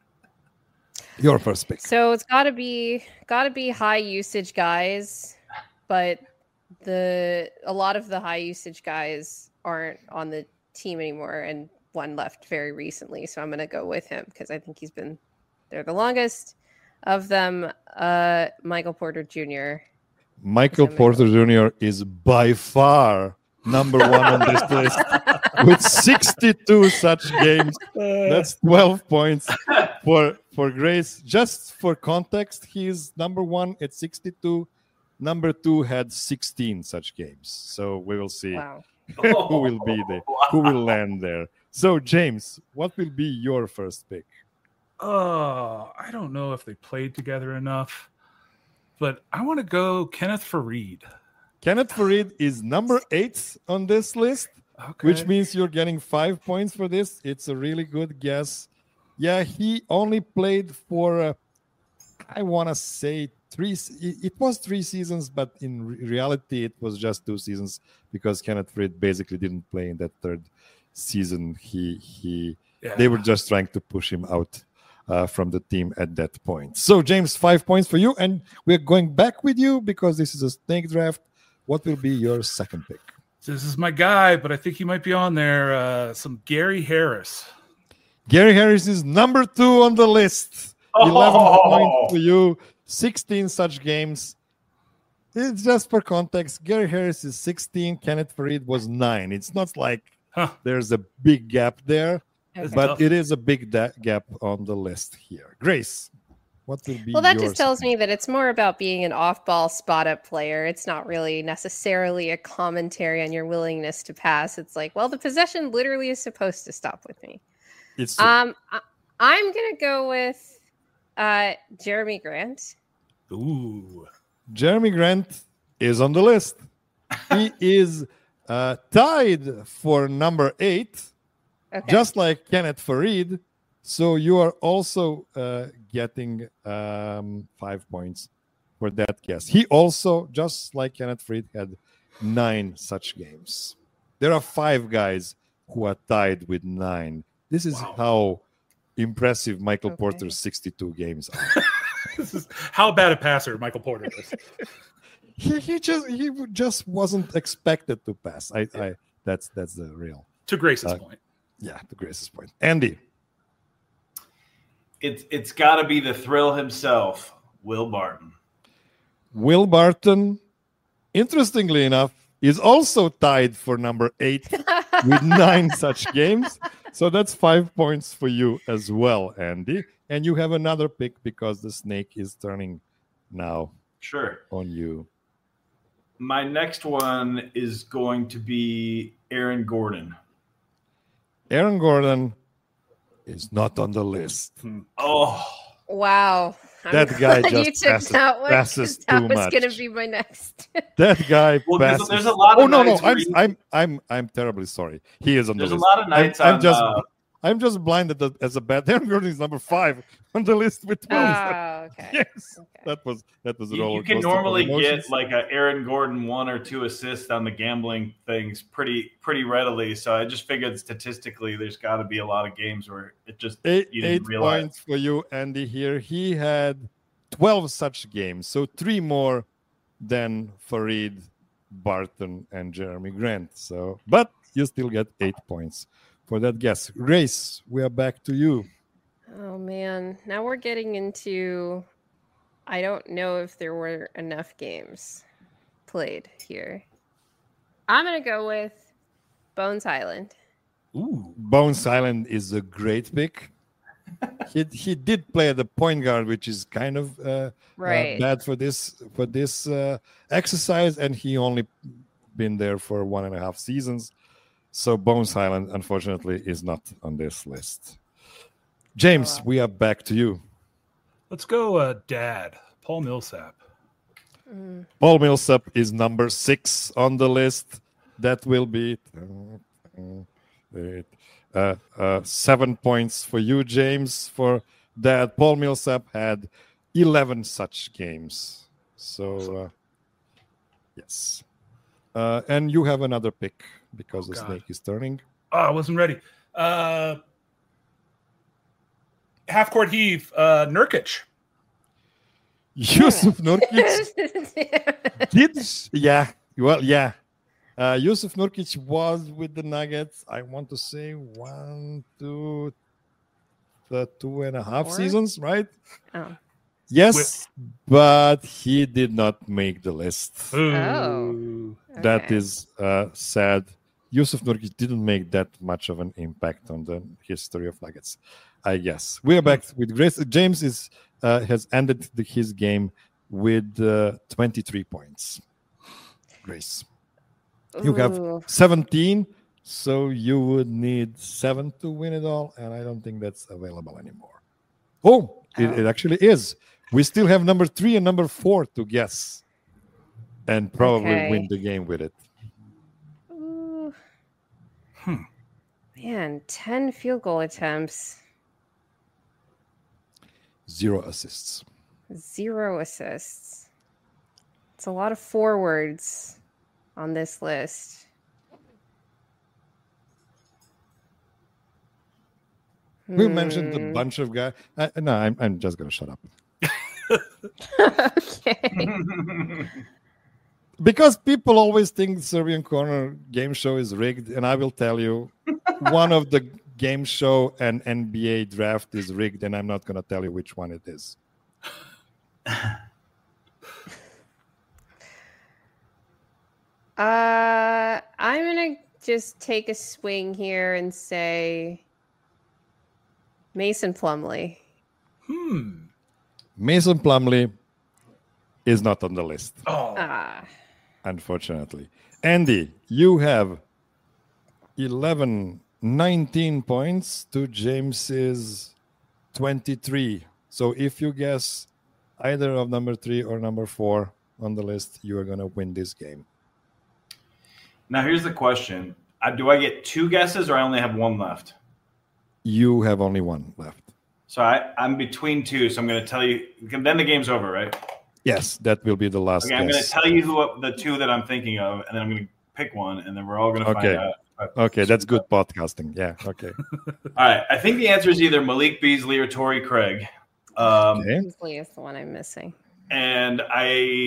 your first pick. So it's got to be got to be high usage guys, but the a lot of the high usage guys aren't on the team anymore, and one left very recently. So I'm going to go with him because I think he's been there the longest of them. Uh, Michael Porter Junior Michael Porter Junior is by far number one on this list with sixty-two such games. That's twelve points for for Grace. Just for context, he's number one at sixty-two. Number two had sixteen such games. So we will see Wow. who will be there, who will land there. So James, what will be your first pick? Oh, I don't know if they played together enough, but I want to go Kenneth Faried. Kenneth Faried is number eight on this list, Okay. which means you're getting five points for this. It's a really good guess. Yeah, he only played for, uh, I want to say, three. It was three seasons, but in re- reality, it was just two seasons because Kenneth Faried basically didn't play in that third season. He he. Yeah. They were just trying to push him out uh, from the team at that point. So, James, five points for you, and we're going back with you because this is a snake draft. What will be your second pick? This is my guy, but I think he might be on there. Uh, some Gary Harris. Gary Harris is number two on the list. eleven Oh! points for you, sixteen such games. It's just for context. Gary Harris is sixteen. Kenneth Faried was nine. It's not like Huh. there's a big gap there, Okay. but tough. it is a big da- gap on the list here. Grace, what will be Well, that your just tells second? me that it's more about being an off-ball spot-up player. It's not really necessarily a commentary on your willingness to pass. It's like, well, the possession literally is supposed to stop with me. It's Um, I, I'm gonna go with uh, Jeremy Grant. Ooh. Jeremy Grant is on the list. He is uh, tied for number eight, Okay. just like Kenneth Faried. So you are also uh, getting um, five points for that guess. He also, just like Kenneth Faried, had nine such games. There are five guys who are tied with nine. This is Wow. how impressive Michael Okay. Porter's sixty-two games are. This is how bad a passer Michael Porter is. he, he just he just wasn't expected to pass. I, I that's that's the real To Grace's uh, point. yeah, to Grace's point. Andy, It's it's got to be the thrill himself, Will Barton. Will Barton, interestingly enough, is also tied for number eight with nine such games. So that's five points for you as well, Andy. And you have another pick because the snake is turning now Sure. on you. My next one is going to be Aaron Gordon. Aaron Gordon is not on the list. Oh, Wow. I'm That guy glad just you took passes- that one, 'cause passes that too was much. going to be my next. That guy well, there's, passes. there's a lot of Oh no, no, nights where I'm you- I'm I'm I'm terribly sorry. He is on there's the a list. lot of nights I'm, I'm on. just uh, I'm just blinded that- as a bad. Aaron Gordon is number five on the list with twelve. Oh, okay. Yes, Okay. that was that was a you, roller you can coaster of normally emotions. get like a Aaron Gordon one or two assists on the gambling things pretty pretty readily. So I just figured statistically, there's got to be a lot of games where it just eight, you didn't eight realize. points for you, Andy. Here he had twelve such games, so three more than Farid, Barton, and Jeremy Grant. So, but you still get eight points for that guess. Grace, we are back to you. Oh man, now we're getting into. I don't know if there were enough games played here. I'm gonna go with Bones Island. Ooh. Bones Island is a great pick. he he did play at the point guard, which is kind of uh, Right. uh, bad for this for this uh, exercise, and he only been there for one and a half seasons. So Bones Island, unfortunately, is not on this list. James, Oh. we are back to you. Let's go, uh, Dad. Paul Millsap. Mm. Paul Millsap is number six on the list. That will be uh, uh, seven points for you, James, for that. Paul Millsap had eleven such games. So, uh, yes. Uh, and you have another pick because Oh, the God. snake is turning. Oh, I wasn't ready. Uh, half court heave. Uh, Nurkic. Yusuf Nurkic did, yeah, well, yeah. Uh, Yusuf Nurkic was with the Nuggets, I want to say one, two, the two and a half Four? seasons, right? Oh. Yes, but he did not make the list. Ooh. That Okay. is uh, sad. Yusuf Nurkic didn't make that much of an impact on the history of Nuggets, I guess. We are back with Grace. James is uh, has ended the, his game with uh, twenty-three points. Grace, you have Ooh. seventeen, so you would need seven to win it all, and I don't think that's available anymore. Oh, it, Oh. it actually is. We still have number three and number four to guess, and probably Okay. win the game with it. Ooh. Hmm. Man, ten field goal attempts, Zero assists. zero assists. It's a lot of forwards on this list. We mentioned a Hmm. bunch of guys. Uh, no, I'm, I'm just going to shut up. Okay. Because people always think Serbian Corner game show is rigged. And I will tell you, one of the game show and N B A draft is rigged. And I'm not going to tell you which one it is. Uh, I'm gonna just take a swing here and say Mason Plumlee. Hmm. Mason Plumlee is not on the list, Oh. Ah, unfortunately. Andy, you have eleven, nineteen points to James's twenty-three. So if you guess either of number three or number four on the list, you are going to win this game. Now here's the question: uh, do I get two guesses, or I only have one left? You have only one left. So I, I'm between two. So I'm going to tell you. Then the game's over, right? Yes, that will be the last Okay, I'm going to guess. tell you who the two that I'm thinking of, and then I'm going to pick one, and then we're all going to Okay. find out. Okay, that's good podcasting. Yeah, okay. All right. I think the answer is either Malik Beasley or Torrey Craig. Um, Okay. Beasley is the one I'm missing. And I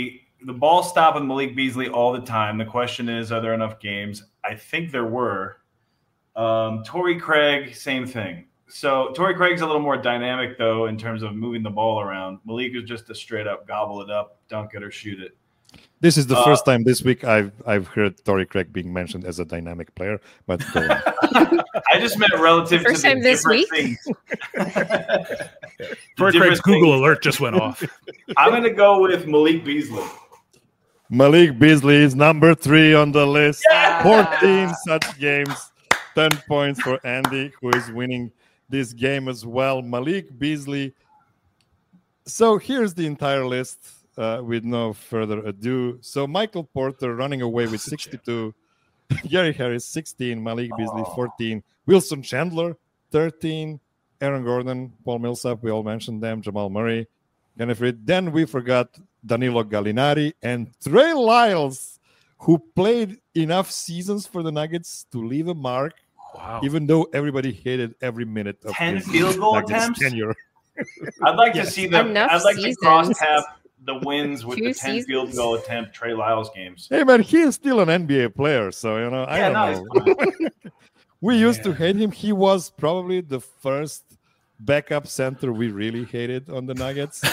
the ball stop with Malik Beasley all the time. The question is, are there enough games? I think there were. Um, Torrey Craig, same thing. So Torrey Craig's a little more dynamic, though, in terms of moving the ball around. Malik is just a straight-up gobble it up, dunk it, or shoot it. This is the uh, first time this week I've I've heard Torrey Craig being mentioned as a dynamic player, but go on. I just meant relative First to the time this different week? things. Torrey Craig's Google alert just went off. I'm going to go with Malik Beasley. Malik Beasley is number three on the list. Yeah. fourteen such games, ten points for Andy, who is winning this game as well. Malik Beasley. So here's the entire list uh, with no further ado. So Michael Porter running away with sixty-two. Gary Harris, sixteen. Malik Beasley, fourteen. Wilson Chandler, thirteen. Aaron Gordon, Paul Millsap, we all mentioned them. Jamal Murray, Kenneth Reed. Then we forgot Danilo Gallinari and Trey Lyles, who played enough seasons for the Nuggets to leave a mark. Wow. Even though everybody hated every minute of ten his field goal Nuggets attempts? tenure. I'd like Yes. to see them. Enough I'd like seasons. to cross tab the wins with Two the ten seasons. field goal attempt Trey Lyles games. Hey, man, he is still an N B A player, so, you know, I Yeah, don't no, know. it's fine. We used to Man. hate him. He was probably the first backup center we really hated on the Nuggets.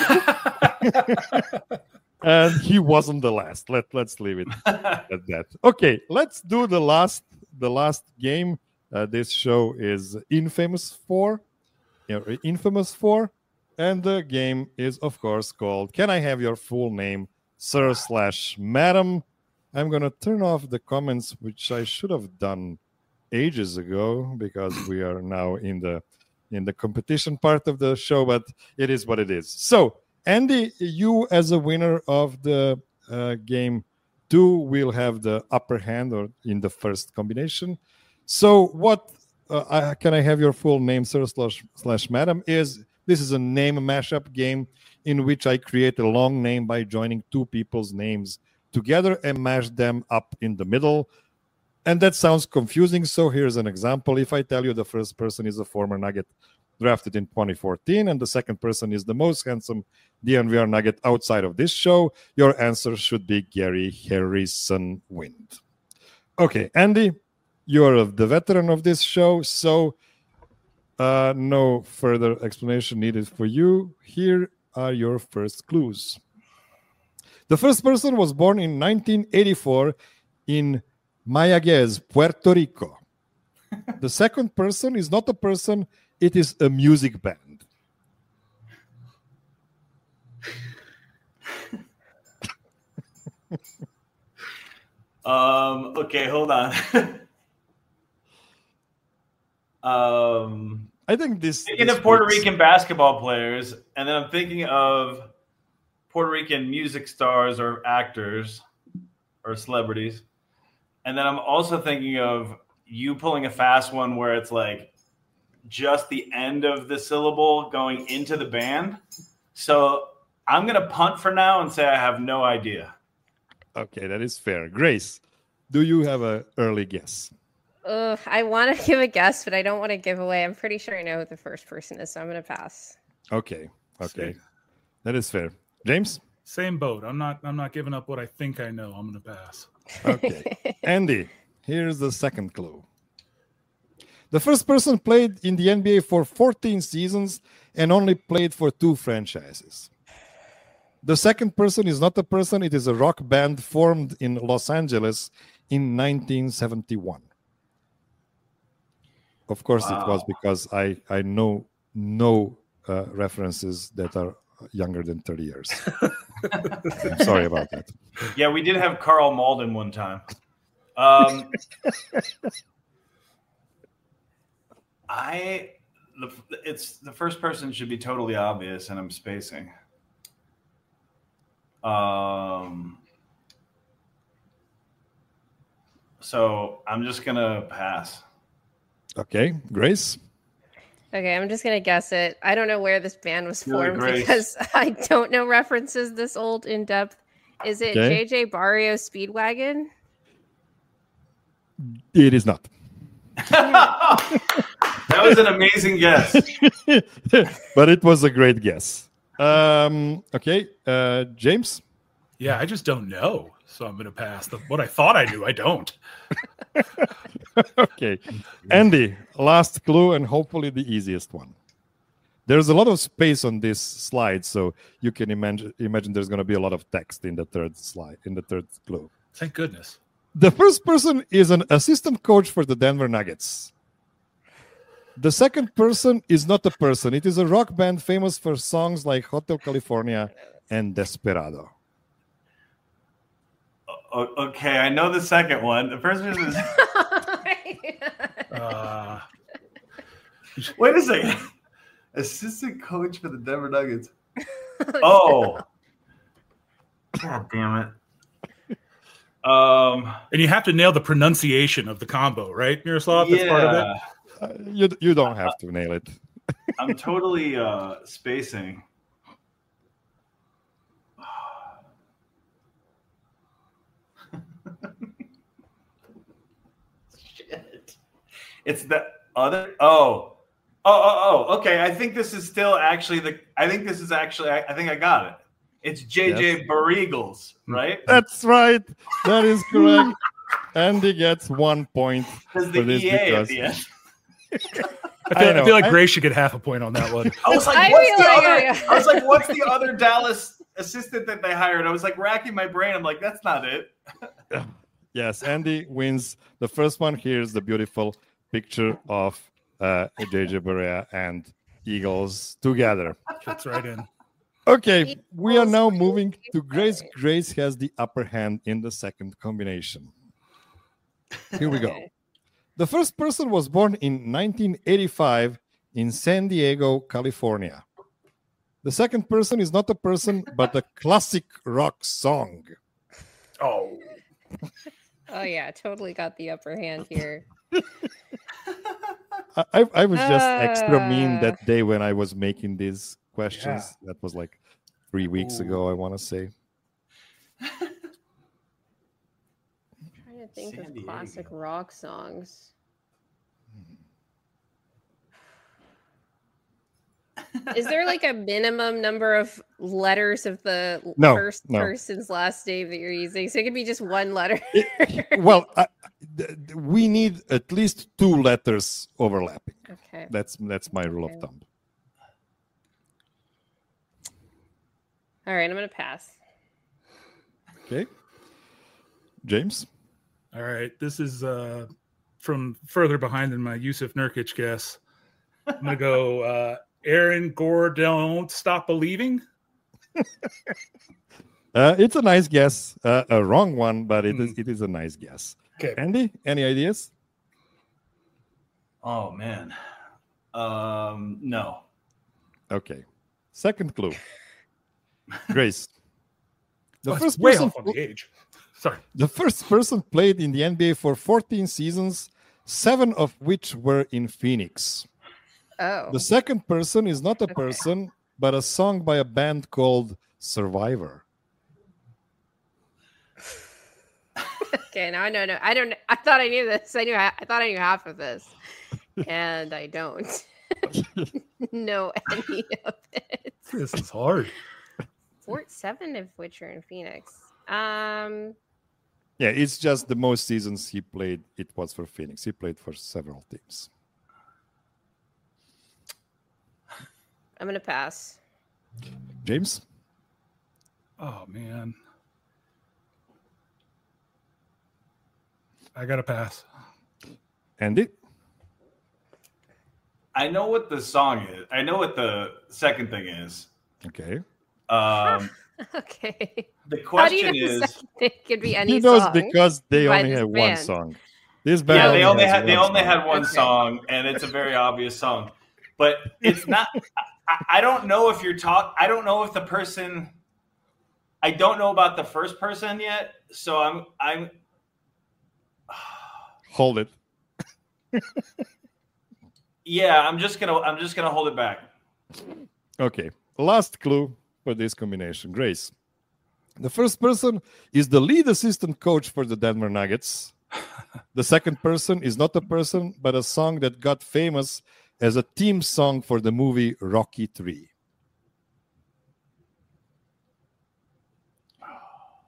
And he wasn't the last. Let, let's leave it at that. Okay, let's do the last the last game. Uh, this show is Infamous four. You know, Infamous four. And the game is, of course, called Can I Have Your Full Name, Sir slash Madam? I'm going to turn off the comments, which I should have done ages ago because we are now in the in the competition part of the show, but it is what it is. So, Andy, you as a winner of the uh, game two will have the upper hand or in the first combination. So what uh, I, can I have your full name, sir slash, slash madam, is this is a name mashup game in which I create a long name by joining two people's names together and mash them up in the middle. And that sounds confusing, so here's an example. If I tell you the first person is a former Nugget drafted in twenty fourteen and the second person is the most handsome D N V R Nugget outside of this show, your answer should be Gary Harrison Wind. Okay, Andy, you're the veteran of this show, so uh, no further explanation needed for you. Here are your first clues. The first person was born in nineteen eighty-four in Mayaguez, Puerto Rico. The second person is not a person, it is a music band. um. Okay, hold on. um. I think this... Thinking this of Puerto works. Rican basketball players, and then I'm thinking of Puerto Rican music stars or actors or celebrities. And then I'm also thinking of you pulling a fast one where it's like just the end of the syllable going into the band. So I'm going to punt for now and say I have no idea. Okay, that is fair. Grace, do you have an early guess? Uh, I want to give a guess, but I don't want to give away. I'm pretty sure I know who the first person is, so I'm going to pass. Okay, okay. Sweet. That is fair. James? Same boat. I'm not. I'm not giving up what I think I know. I'm going to pass. Okay. Andy, here's the second clue. The first person played in the N B A for fourteen seasons and only played for two franchises. The second person is not a person, it is a rock band formed in Los Angeles in nineteen seventy-one. Of course, Wow. it was because I, I know no uh, references that are younger than thirty years. I'm sorry about that. Yeah, we did have Carl Malden one time. Um, I, the, it's the first person should be totally obvious, and I'm spacing. Um, so I'm just gonna pass. Okay, Grace? Okay, I'm just gonna guess it. I don't know where this band was Really, formed Grace? because I don't know references this old in depth. Is it Okay. J J Barrio Speedwagon? It is not. That was an amazing guess. But it was a great guess. Um, okay, uh, James? Yeah, I just don't know. So I'm going to pass. The, what I thought I knew, I don't. Okay. Andy, last clue and hopefully the easiest one. There's a lot of space on this slide, so you can imagine imagine there's going to be a lot of text in the third slide, in the third clue. Thank goodness. The first person is an assistant coach for the Denver Nuggets. The second person is not a person. It is a rock band famous for songs like Hotel California and Desperado. O- okay, I know the second one. The first one is. Uh, Wait a second. Assistant coach for the Denver Nuggets. Oh. God damn it. Um, and you have to nail the pronunciation of the combo, right, Miroslav? That's yeah. part of it. Uh, you, you don't have to nail it. I'm totally uh, spacing. Shit. It's the other. Oh. Oh, oh, oh. Okay. I think this is still actually the. I think this is actually. I, I think I got it. It's J J Yes. Barregals, right? That's right. That is correct. Andy gets one point Because for the this E A at because the end. I feel, I I know. feel like I- Grace should get half a point on that one. I was like, I what's feel the like other? I- I was like, what's the other Dallas assistant that they hired? I was like racking my brain. I'm like, that's not it. yes, Andy wins the first one. Here's the beautiful picture of uh, J J Barea and Eagles together. Fits right in. Okay, we are Eagles now win. moving to Grace. Grace has the upper hand in the second combination. Here we go. Okay. The first person was born in nineteen eighty-five in San Diego, California. The second person is not a person, but a classic rock song. Oh, Oh yeah, totally got the upper hand here. I, I I was just extra mean Uh. that day when I was making these questions. That was like three weeks Ooh. ago, I want to say. I'm trying to think San of classic Diego. rock songs. Is there like a minimum number of letters of the l- No, first no. person's last name that you're using? So it could be just one letter. Well, I, th- th- we need at least two letters overlapping. Okay. That's that's my rule Okay. of thumb. All right, I'm gonna pass. Okay, James. all right. This is uh, from further behind than my Yusuf Nurkic guess. I'm gonna go. Uh, Aaron Gore, don't stop believing. Uh, it's a nice guess, uh, a wrong one, but it is Hmm. it is a nice guess. Okay. Andy, any ideas? Oh man. Um, no. Okay. Second clue. Grace. The Oh, it's first way person off on the age. Sorry. the first person played in the N B A for fourteen seasons, seven of which were in Phoenix. Oh. The second person is not a Okay. person, but a song by a band called Survivor. Okay, now I know. No, I don't. I thought I knew this. I knew. I thought I knew half of this, and I don't know any of it. This is hard. Four, seven of which are in Phoenix. Um. Yeah, it's just the most seasons he played, it was for Phoenix. He played for several teams. I'm gonna pass. James? Oh man. I gotta pass. Andy? I know what the song is. I know what the second thing is. Okay. Um, Okay. the How do you question know the is, second thing could be any He knows song? because they by only this have one band. song. This band yeah, they only has had they one only song. had one Okay. song, and it's a very obvious song. But it's not. I, I don't know if you're talk. I don't know if the person. I don't know about the first person yet, so I'm I'm. Hold it. Yeah, I'm just gonna I'm just gonna hold it back. Okay. Last clue for this combination. Grace. The first person is the lead assistant coach for the Denver Nuggets. The second person is not a person, but a song that got famous as a theme song for the movie Rocky three.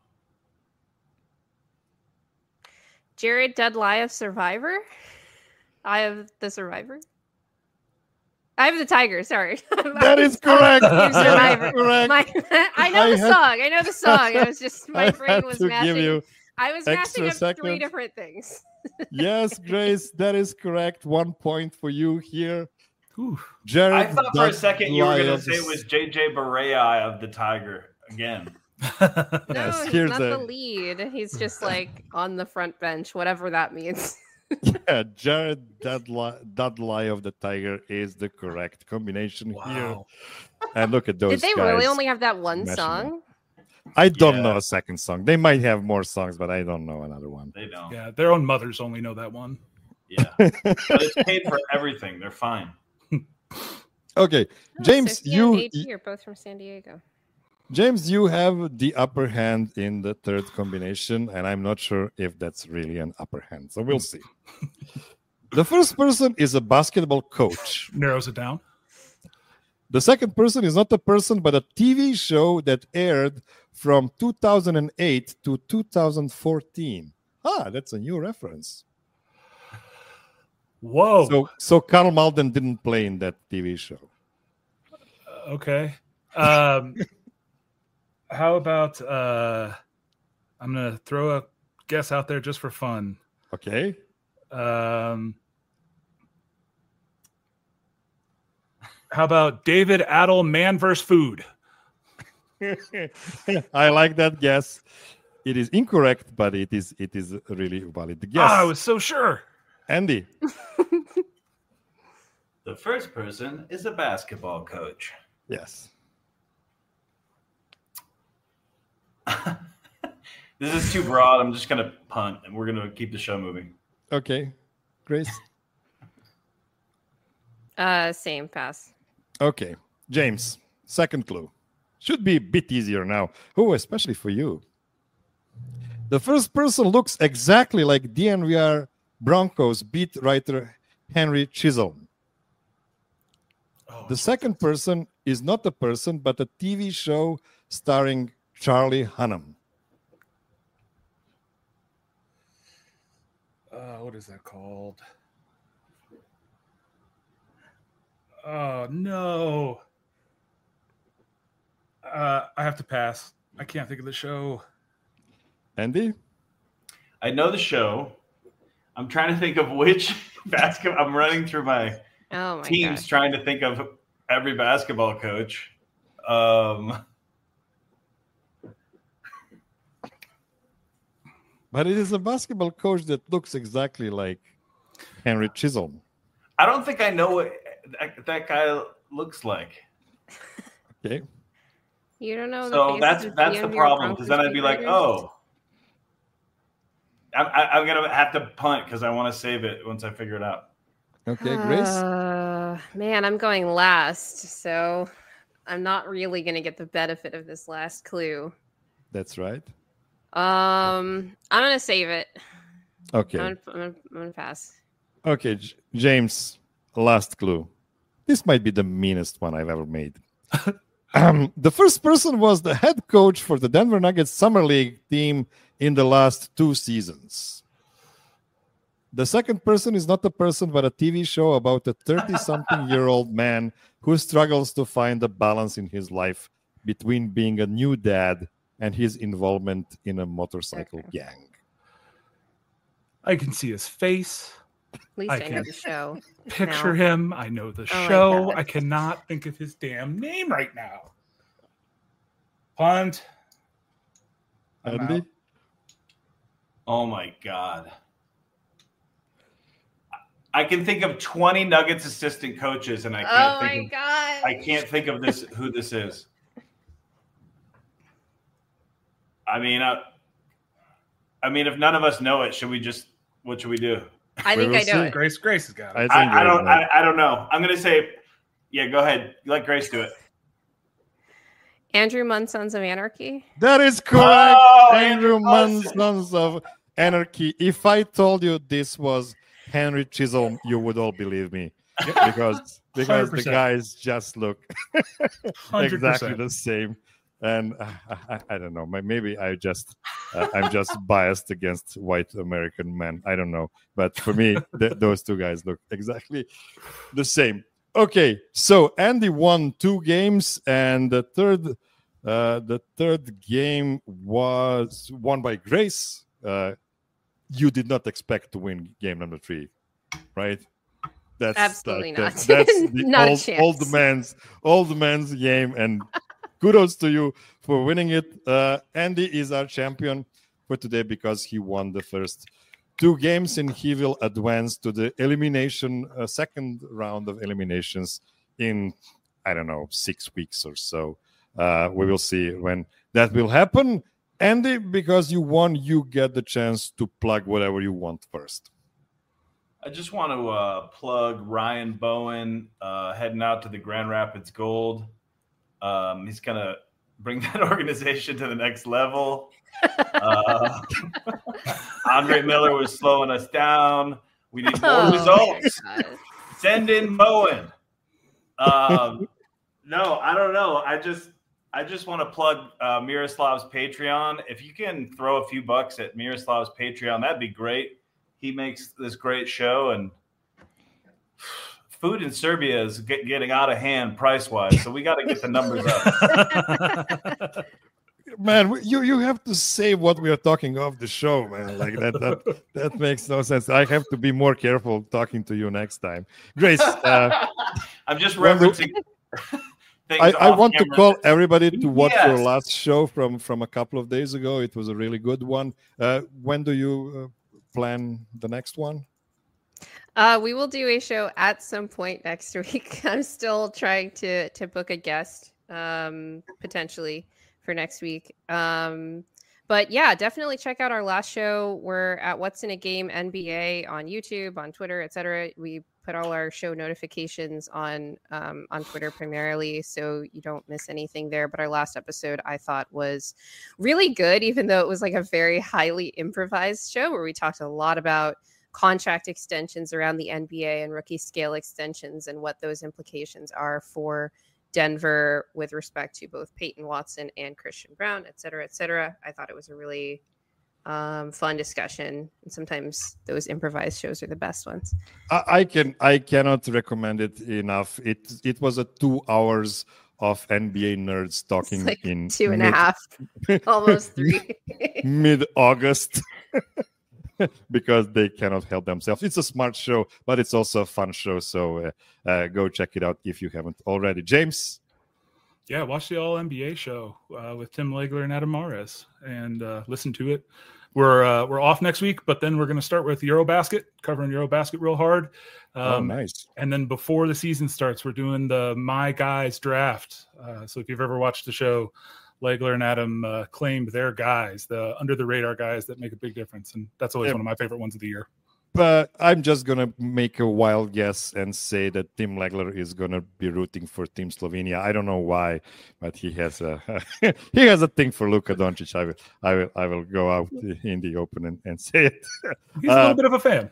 Jared Dudley of Survivor. I have the Survivor. I have the Tiger. Sorry, That is correct. Team Survivor. Correct. My, I know I the had- song. I know the song. I was just my I brain had was to mashing. give you I was extra mashing up seconds. three different things. Yes, Grace, that is correct. One point for you here. Ooh. Jared, I thought for a second you were going to Dudley say it was J J Barea of the Tiger again. No, Yes, he's here's not a- the lead. He's just like on the front bench, whatever that means. Yeah, Jared Dudley, Dudley of the Tiger is the correct combination here. Wow. And look at those Did they guys. really only have that one mashing song? I don't Yeah. know a second song. They might have more songs, but I don't know another one. They don't. Yeah, their own mothers only know that one. Yeah. But it's paid for everything. They're fine. Okay, Oh, James, Sophia you and A T are both from San Diego. James, you have the upper hand in the third combination, and I'm not sure if that's really an upper hand. So we'll see. The first person is a basketball coach. Narrows it down. The second person is not a person, but a T V show that aired from two thousand eight to two thousand fourteen. Ah, that's a new reference. Whoa. So, so Karl Malden didn't play in that T V show. Okay. Um, how about uh, I'm gonna throw a guess out there just for fun. Okay. Um, how about David Adel, Man versus Food? I like that guess. It is incorrect, but it is it is a really valid guess. Ah, I was so sure. Andy. The first person is a basketball coach. Yes. This is too broad. I'm just going to punt, and we're going to keep the show moving. Okay. Grace. Uh, same pass. Okay. James. Second clue. Should be a bit easier now. Oh, especially for you. The first person looks exactly like D N V R Broncos beat writer Henry Chisholm. Oh, The second person is not a person, but a T V show starring Charlie Hunnam. uh, what is that called? Oh no. Uh, I have to pass. I can't think of the show. Andy? I know the show. I'm trying to think of which basketball. I'm running through my Oh my teams gosh. trying to think of every basketball coach. Um, But it is a basketball coach that looks exactly like Henry Chisholm. I don't think I know what that, that guy looks like. Okay. You don't know. So the that's faces of that's D the M V R problem, because then Broncos I'd be like, beat writers? oh, I'm, I, I'm gonna have to punt because I want to save it once I figure it out. Okay, Grace? Uh, man, I'm going last, so I'm not really going to get the benefit of this last clue. That's right. Um, I'm going to save it. Okay. I'm going I'm gonna pass. Okay, J- James, last clue. This might be the meanest one I've ever made. um, the first person was the head coach for the Denver Nuggets Summer League team in the last two seasons. The second person is not a person, but a T V show about a thirty-something-year-old man who struggles to find a balance in his life between being a new dad and his involvement in a motorcycle Okay. gang. I can see his face. At least I I, know can the show. Picture No. him. I know the Oh my show. God. I cannot think of his damn name right now. Punt. I'm Andy? out. Oh my god. I can think of twenty Nuggets assistant coaches, and I can't Oh my think of, god! I can't think of this who this is. I mean, I, I mean, if none of us know it, should we just? What should we do? I think We I will know see. it. Grace. Grace has got I it. think I, I you're don't. right. I, I don't know. I'm gonna say, yeah. Go ahead. Let Grace do it. Andrew Munn, Sons of Anarchy. That is correct. Oh, Andrew Andrew Munn, Munson. Sons of Anarchy. If I told you this was Henry Chisholm, you would all believe me. Because because the one hundred percent. guys just look one hundred exactly percent. the same. And uh, I, I don't know. Maybe I just uh, I'm just biased against white American men. I don't know. But for me, th- those two guys look exactly the same. Okay, so Andy won two games, and the third uh, the third game was won by Grace. Uh, you did not expect to win game number three, right? That's absolutely like, not. That, that's the not old, a chance. old man's old man's game, and kudos to you for winning it. Uh, Andy is our champion for today because he won the first two games, and he will advance to the elimination, uh, second round of eliminations in, I don't know, six weeks or so. Uh, we will see when that will happen. Andy, because you won, you get the chance to plug whatever you want first. I just want to uh, plug Ryan Bowen uh, heading out to the Grand Rapids Gold. Um, he's going to bring that organization to the next level. Uh, Andre Miller was slowing us down. We need more Oh, results. my God. Send in Bowen. Um, no, I don't know. I just I just want to plug uh, Miroslav's Patreon. If you can throw a few bucks at Miroslav's Patreon, that'd be great. He makes this great show, and food in Serbia is get, getting out of hand price-wise, so we got to get the numbers up. Man, you, you have to say what we are talking off the show, man. Like that, that that makes no sense. I have to be more careful talking to you next time. Grace, uh, I'm just referencing things I, I off want to camera. call everybody to watch Yes. your last show from, from a couple of days ago. It was a really good one. Uh, when do you uh, plan the next one? Uh, we will do a show at some point next week. I'm still trying to to book a guest, um, potentially for next week. Um, but yeah, definitely check out our last show. We're at What's in a Game N B A on YouTube, on Twitter, et cetera. We put all our show notifications on um, on Twitter primarily, so you don't miss anything there. But our last episode, I thought, was really good, even though it was like a very highly improvised show where we talked a lot about contract extensions around the N B A and rookie scale extensions and what those implications are for Denver with respect to both Peyton Watson and Christian Brown, et cetera, et cetera. I thought it was a really um, fun discussion. And sometimes those improvised shows are the best ones. I, I can I cannot recommend it enough. It it was a two hours of N B A nerds talking It's like in two and a mid- half, almost three. mid-August. Because they cannot help themselves. It's a smart show, but it's also a fun show. So uh, uh, go check it out if you haven't already. James? Yeah, watch the All N B A show uh, with Tim Legler and Adam Mares and uh, listen to it. We're uh, we're off next week, but then we're going to start with Eurobasket, covering Eurobasket real hard. Um, oh, nice. And then before the season starts, we're doing the My Guys draft. Uh, so if you've ever watched the show, Legler and Adam uh, claimed their guys, the under the radar guys that make a big difference. And that's always Yeah. one of my favorite ones of the year. But I'm just going to make a wild guess and say that Tim Legler is going to be rooting for Team Slovenia. I don't know why, but he has a he has a thing for Luka Doncic. I will I will I will go out in the open and, and say it. He's a Uh, little bit of a fan.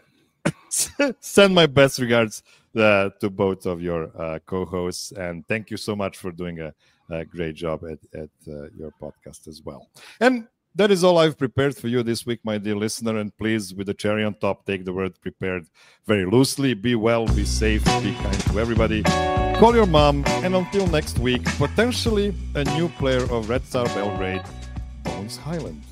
Send my best regards uh, to both of your uh, co-hosts, and thank you so much for doing a, a great job at, at uh, your podcast as well. And that is all I've prepared for you this week, my dear listener. And please, with the cherry on top, take the word prepared very loosely. Be well, be safe, be kind to everybody. Call your mom, and until next week, potentially a new player of Red Star Belgrade, Bones Highland.